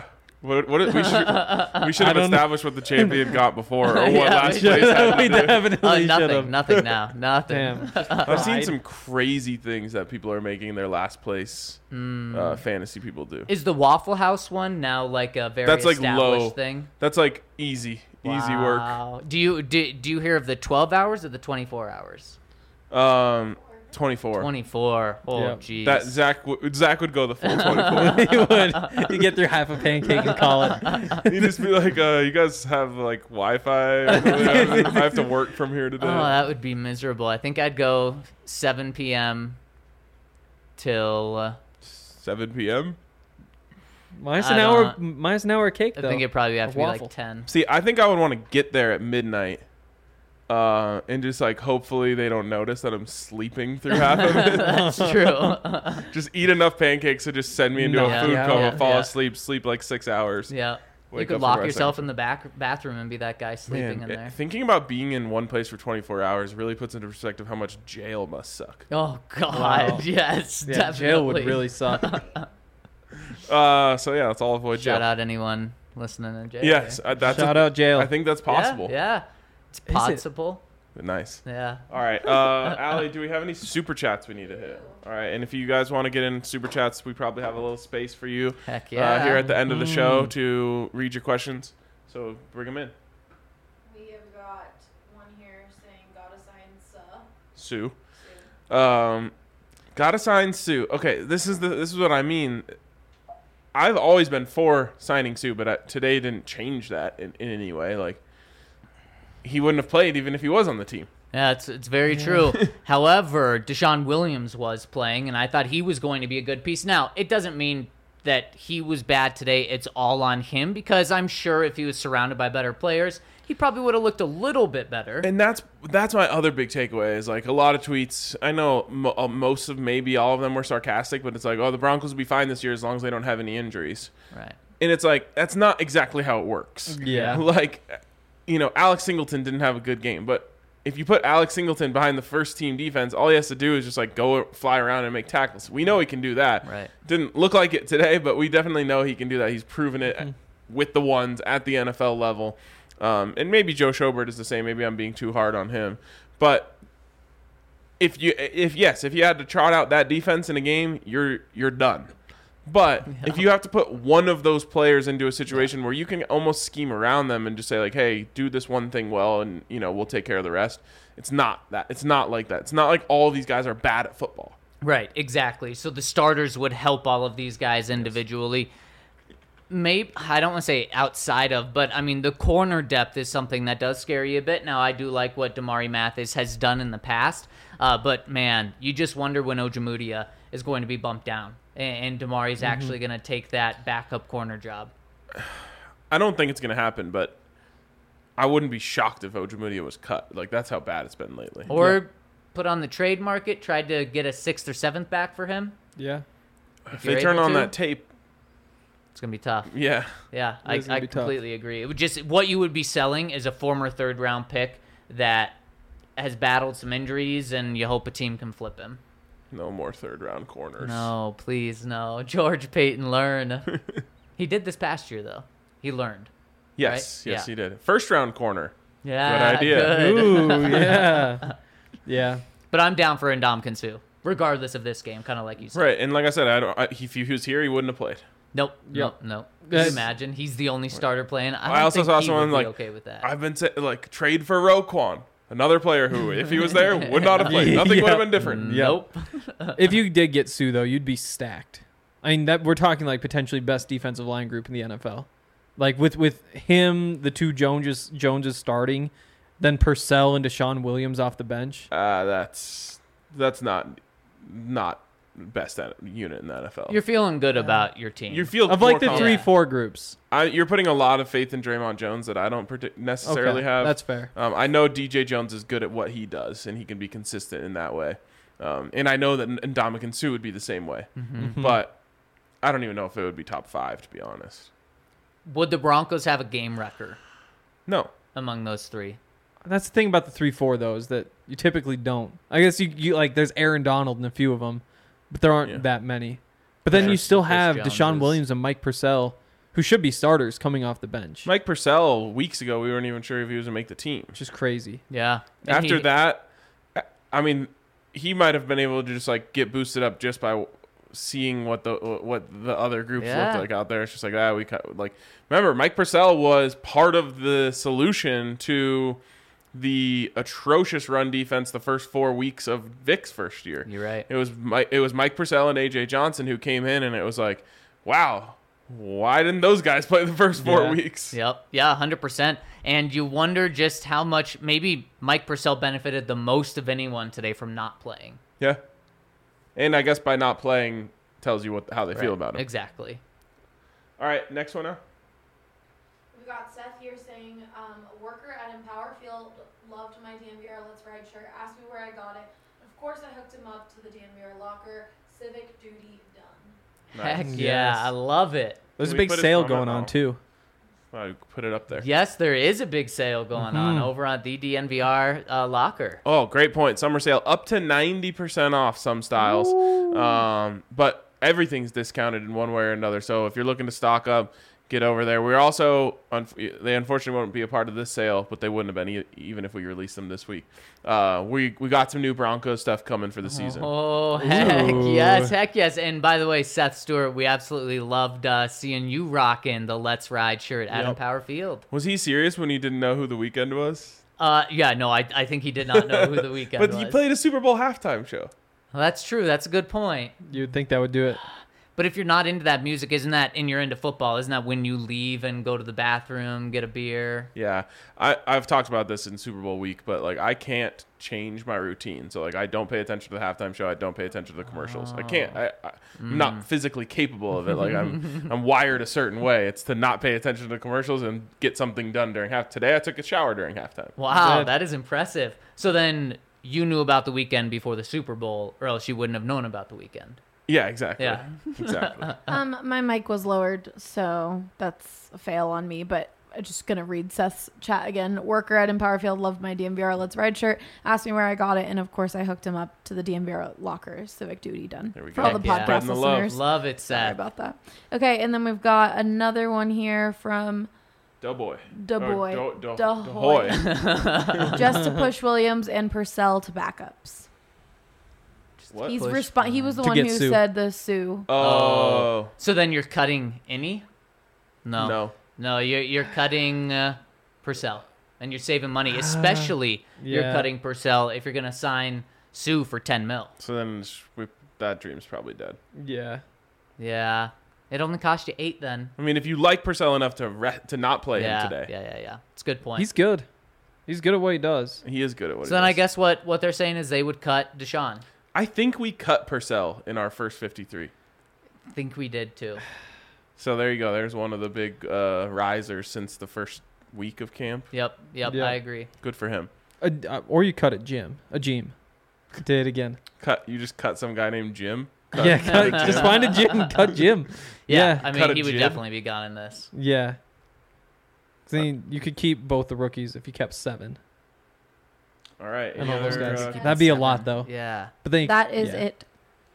We should I have don't know. established what the champion got before, or what Yeah, last we place had to we do. definitely should Nothing. have. Nothing now. Nothing. Damn. I've seen Pride. some crazy things that people are making their last place fantasy people do. Is the Waffle House one now like a very That's like established low. thing? That's like easy work. Wow. Do you hear of the 12 hours or the 24 hours? 24. 24. Oh, Yeah. jeez. That Zach would go the full 24. You would. You get through half a pancake and call it. You just be like, you guys have like Wi-Fi. I have to work from here today. Oh, that would be miserable. I think I'd go 7 p.m. till 7 p.m. Minus I an don't- hour. Minus an hour of cake I though. think it'd probably have A to be waffle. like 10. See, I think I would want to get there at midnight, and just like hopefully they don't notice that I'm sleeping through half of it. That's true. Just eat enough pancakes to just send me into No. a food Yeah, coma, yeah, fall yeah. asleep, sleep like 6 hours. Yeah. You Wake could up lock for the rest yourself of in the bathroom and be that guy sleeping in there. Thinking about being in one place for 24 hours really puts into perspective how much jail must suck. Oh God, Wow. yes, Yeah, definitely. jail would really suck. So yeah, let's all avoid jail. Shout out anyone listening to jail. Yes, that's Shout out jail. I think that's possible. Yeah, it's it? possible. Nice. Yeah. All right, Allie, do we have any super chats we need to hit? All right, and if you guys want to get in super chats, we probably have a little space for you Heck yeah. here at the end of the show to read your questions. So bring them in. We have got one here saying, gotta sign Sue. Sue. Gotta sign Sue. Okay, this is what I mean. I've always been for signing Sue, but today didn't change that in any way. Like, he wouldn't have played even if he was on the team. Yeah, it's very true. However, Deshaun Williams was playing, and I thought he was going to be a good piece. Now, it doesn't mean that he was bad today. It's all on him, because I'm sure if he was surrounded by better players, he probably would have looked a little bit better. And that's my other big takeaway is like a lot of tweets. I know most of maybe all of them were sarcastic, but it's like, oh, the Broncos will be fine this year as long as they don't have any injuries. Right. And it's like, that's not exactly how it works. Yeah. Like, Alex Singleton didn't have a good game, but if you put Alex Singleton behind the first team defense, all he has to do is just like go fly around and make tackles. We know he can do that. Right. Didn't look like it today, but we definitely know he can do that. He's proven it with the ones at the NFL level. And maybe Joe Schobert is the same. Maybe I'm being too hard on him. But if you had to trot out that defense in a game, you're done. But if you have to put one of those players into a situation where you can almost scheme around them and just say like, hey, do this one thing well, and we'll take care of the rest. It's not that. It's not like that. It's not like all these guys are bad at football. Right, exactly. So the starters would help all of these guys individually. Maybe, I don't want to say outside of, but I mean, the corner depth is something that does scare you a bit. Now, I do like what Damari Mathis has done in the past, but man, you just wonder when Ojemudia is going to be bumped down and Damari's actually going to take that backup corner job. I don't think it's going to happen, but I wouldn't be shocked if Ojemudia was cut. Like, that's how bad it's been lately. Or put on the trade market, tried to get a 6th or 7th back for him. Yeah. If you're they turn able on to, that tape, it's going to be tough. yeah. Yeah, It is gonna I be tough. completely agree. It would just, what you would be selling is a former 3rd-round pick that has battled some injuries, and you hope a team can flip him. No more third-round corners. No, please, no. George Payton, learn. He did this past year, though. He learned. Yes, Right? yes, Yeah. he did. First-round corner. Yeah, Good idea. good. Ooh, yeah. Yeah. But I'm down for Ndamukong Suh, regardless of this game, kind of like you said. Right, and like I said, if he was here, he wouldn't have played. Nope, Yep. nope. Can you imagine? He's the only starter playing. I also don't think saw he someone would be like, okay with that. I've been saying, like, trade for Roquan, another player who, if he was there, would not have played. Nothing would have been different. Nope. If you did get Sue though, you'd be stacked. I mean, that we're talking like potentially best defensive line group in the NFL. Like with him, the two Joneses starting, then Purcell and Deshaun Williams off the bench. That's not best unit in the NFL. You're feeling good about your team. You feel Of like more the confident. 3-4 groups. You're putting a lot of faith in Draymond Jones that I don't necessarily Okay, have. that's fair. I know DJ Jones is good at what he does, and he can be consistent in that way. And I know that Ndamukong Suh would be the same way. But I don't even know if it would be top 5, to be honest. Would the Broncos have a game record No. among those three? That's the thing about the 3-4 though, is that you typically don't. I guess you like there's Aaron Donald in a few of them, but there aren't Yeah. that many. But then Chris- you still Chris have Jones Deshaun is- Williams and Mike Purcell, who should be starters coming off the bench. Mike Purcell, weeks ago, we weren't even sure if he was going to make the team. Which is crazy. Yeah. And After that, I mean, he might have been able to just like get boosted up just by seeing what the other groups Yeah. looked like out there. It's just like, remember, Mike Purcell was part of the solution to the atrocious run defense the first 4 weeks of Vic's first year. You're right. It was Mike Purcell and AJ Johnson who came in, and it was like, wow, why didn't those guys play the first 4 weeks? Yep. Yeah, 100%. And you wonder just how much maybe Mike Purcell benefited the most of anyone today from not playing. Yeah. And I guess by not playing tells you how they feel about him. Exactly. All right, next one now. We got Seth here saying, worker at Empower Field loved my DNVR Let's Ride shirt, asked me where I got it. Of course, I hooked him up to the DNVR locker. Civic duty done. Heck Nice. yeah, Yes. I love it. There's a Can we big put his sale comment going on now? too. I put it up there. Yes, there is a big sale going on over on the DNVR locker. Oh, great point. Summer sale up to 90% off some styles. But everything's discounted in one way or another. So if you're looking to stock up, get over there. We're also, they unfortunately won't be a part of this sale, but they wouldn't have been even if we released them this week. We got some new Broncos stuff coming for the season. Oh, heck Ooh. yes, heck yes. And by the way, Seth Stewart, we absolutely loved seeing you rocking the Let's Ride shirt at Yep. Empower Field. Was he serious when he didn't know who the weekend was? Yeah, no, I think he did not know who the weekend But was. he played a Super Bowl halftime show. Well, that's true. That's a good point. You'd think that would do it. But if you're not into that music, and you're into football, isn't that when you leave and go to the bathroom, get a beer? Yeah, I've talked about this in Super Bowl week, but like I can't change my routine. So like I don't pay attention to the halftime show. I don't pay attention to the commercials. I can't. I'm not physically capable of it. Like I'm wired a certain way. It's to not pay attention to the commercials and get something done during half. Today I took a shower during halftime. Wow, Good. that is impressive. So then you knew about the weekend before the Super Bowl, or else you wouldn't have known about the weekend. Yeah, exactly. Yeah. Exactly. My mic was lowered, so that's a fail on me, but I'm just going to read Seth's chat again. Worker at Empower Field loved my DMVR Let's Ride shirt, asked me where I got it, and of course I hooked him up to the DMVR locker. Civic duty done. There we For go. all the Heck yeah. podcast Spreading the love. listeners. Love it, Sorry Seth. about that. Okay, and then we've got another one here from Doughboy. Dahoy. Dahoy. Just to push Williams and Purcell to backups. What? He Push was the To one get who Sue. said the Sue. Oh. So then you're cutting Innie? No. No. You're cutting Purcell. And you're saving money. Especially you're yeah. cutting Purcell if you're going to sign Sue for 10 mil. So then that dream's probably dead. Yeah. Yeah. It only cost you 8 then. I mean, if you like Purcell enough to not play yeah, him today, Yeah. It's a good point. He's good. He's good at what he does. he is good at what so he then I does. guess what they're saying is they would cut Deshaun. I think we cut Purcell in our first 53. I think we did too. So there you go. There's one of the big risers since the first week of camp. Yep, Yeah. I agree. Good for him. Or you cut it, Jim. A Jim. Did it again. You just cut some guy named Jim. Yeah, just find a Jim. Cut Jim. Yeah, Yeah. I Cut a mean, he would jib. definitely be gone in this. Yeah. See, you could keep both the rookies if you kept 7. All right. And any all those other, guys. keep- That'd be a 7. lot, though. Yeah. But then That is yeah. it.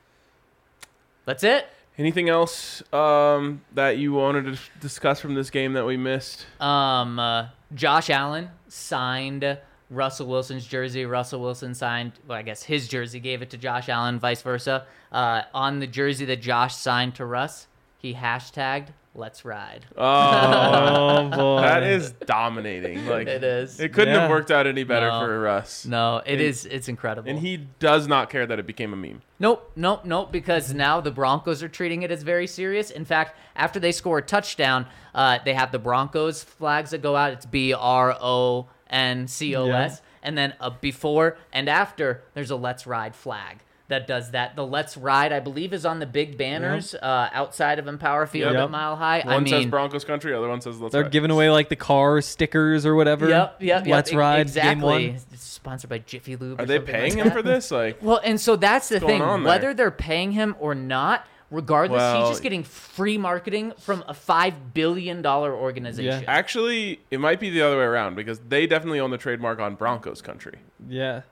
That's it. anything else that you wanted to discuss from this game that we missed? Josh Allen signed Russell Wilson's jersey. Russell Wilson signed, well, I guess his jersey, gave it to Josh Allen, vice versa. On the jersey that Josh signed to Russ, he hashtagged "Let's Ride." Oh, boy. that is dominating. Like It is. It couldn't Yeah. have worked out any better No. for Russ. No, And- it's incredible. And he does not care that it became a meme. Nope, because now the Broncos are treating it as very serious. In fact, after they score a touchdown, they have the Broncos flags that go out. It's BRONCOS. Yeah. And then before and after, there's a Let's Ride flag that does that. The Let's Ride, I believe, is on the big banners outside of Empower Field Yep. at Mile High. One I mean, says Broncos country, other one says Let's They're Ride. giving away like the car stickers or whatever. Yep. Let's Ride. Exactly. Game 1. It's sponsored by Jiffy Lube. Are or they something paying like him that. for this? Like, Well, and so that's the What's going thing. on there? Whether they're paying him or not, regardless, Well- he's just getting free marketing from a $5 billion organization. actually, it might be the other way around because they definitely own the trademark on Broncos country. Yeah.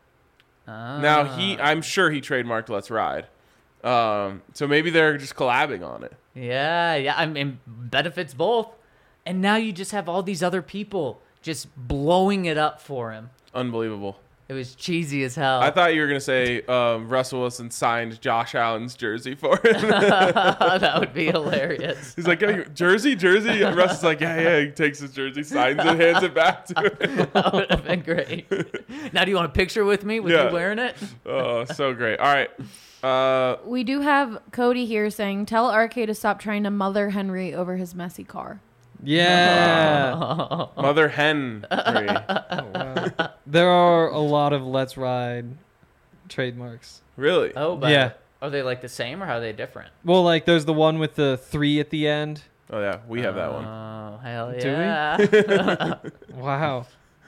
Now I'm sure he trademarked Let's Ride. So maybe they're just collabing on it. Yeah. I mean, benefits both. And now you just have all these other people just blowing it up for him. Unbelievable. It was cheesy as hell. I thought you were going to say Russell Wilson signed Josh Allen's jersey for him. That would be hilarious. He's like, oh, jersey? And Russ is like, yeah. He takes his jersey, signs it, hands it back to him. That would have been great. Now, do you want a picture with me with Yeah. you wearing it? Oh, so great. All right. We do have Cody here saying, tell RK to stop trying to mother Henry over his messy car. Yeah. Mother Henry. There are a lot of Let's Ride trademarks. Really? Oh, but Yeah. are they like the same or are they different? Well, like there's the one with the 3 at the end. Oh, yeah. We have that one. Oh, hell Do we? yeah. Wow.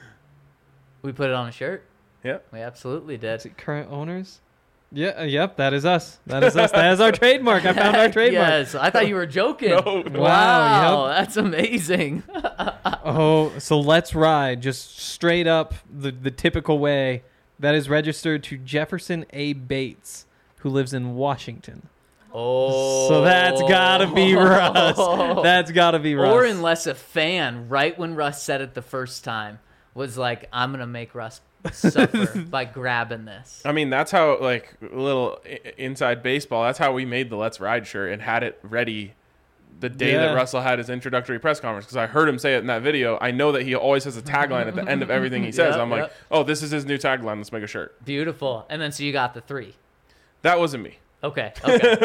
We put it on a shirt. Yeah. We absolutely did. Is it current owners? Yeah, yep, that is us. That is us. That is our trademark. I found our trademark. Yes, I thought you were joking. No. Wow, Wow, that's amazing. Oh, so Let's Ride, just straight up the typical way. That is registered to Jefferson A. Bates, who lives in Washington. Oh, So that's gotta be Russ. That's gotta be Russ. Or unless a fan, right when Russ said it the first time, was like, "I'm gonna make Russ suffer by grabbing this." I mean, that's how, like, a little inside baseball, that's how we made the Let's Ride shirt and had it ready the day that Yeah. Russell had his introductory press conference, because I heard him say it in that video. I know that he always has a tagline at the end of everything he says. Yep, I'm like, yep. oh, this is his new tagline. Let's make a shirt. Beautiful. And then so you got the 3. That wasn't me. Okay.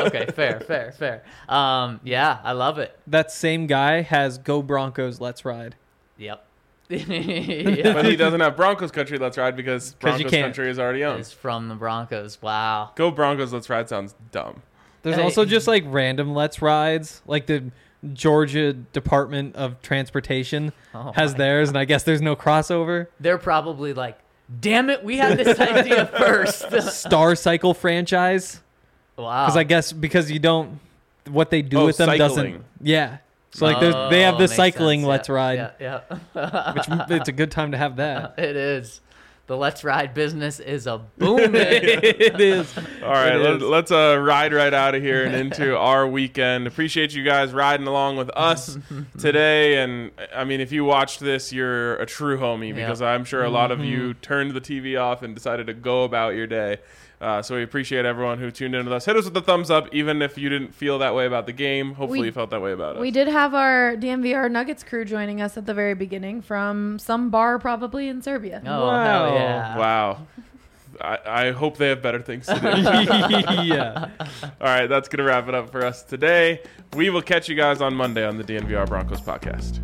Fair. Yeah, I love it. That same guy has Go Broncos Let's Ride. Yep. But he doesn't have Broncos Country Let's Ride because 'Cause you Broncos can't. Country is already owned. It's from the Broncos. Wow. Go Broncos Let's Ride sounds dumb. There's Hey. also just like random Let's Rides, like the Georgia Department of Transportation Oh has my- theirs, and I guess there's no crossover. They're probably like, "Damn it, we had this idea first." Star Cycle franchise, Wow. because I guess because you don't, what they do Oh, with them cycling. doesn't. Yeah. So like they have the makes cycling sense. Let's Ride, Yeah. which it's a good time to have that. It is. The Let's Ride business is a booming. It is. All right, It is. let's ride right out of here and into our weekend. Appreciate you guys riding along with us today. And I mean, if you watched this, you're a true homie, because I'm sure a lot of you turned the TV off and decided to go about your day. So we appreciate everyone who tuned in with us. Hit us with a thumbs up, even if you didn't feel that way about the game. Hopefully you felt that way about us. We did have our DMVR Nuggets crew joining us at the very beginning from some bar probably in Serbia. Oh, Wow. hell yeah. Wow. I hope they have better things to do. Yeah. All right, that's going to wrap it up for us today. We will catch you guys on Monday on the DNVR Broncos podcast.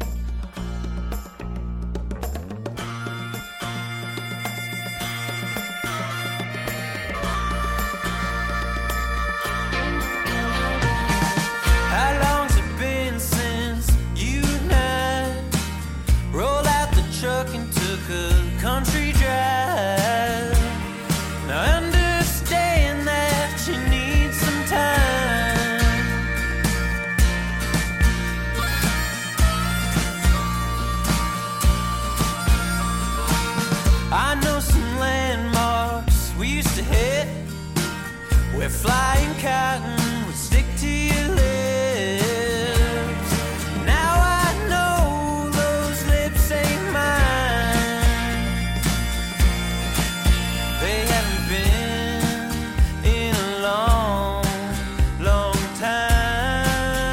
How long's it been since you and I rolled out the truck and took a country drive? Now I understand that you need some time. I know some landmarks we used to hit where flying cotton would stick to your lips. Now I know those lips ain't mine. They haven't been in a long, long time.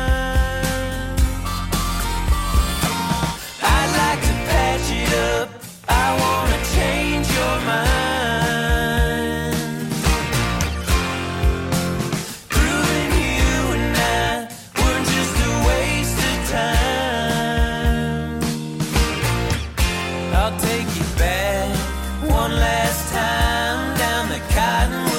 I'd like to patch it up. I wanna change your mind. Proving you and I were just a waste of time. I'll take you back one last time down the Cottonwood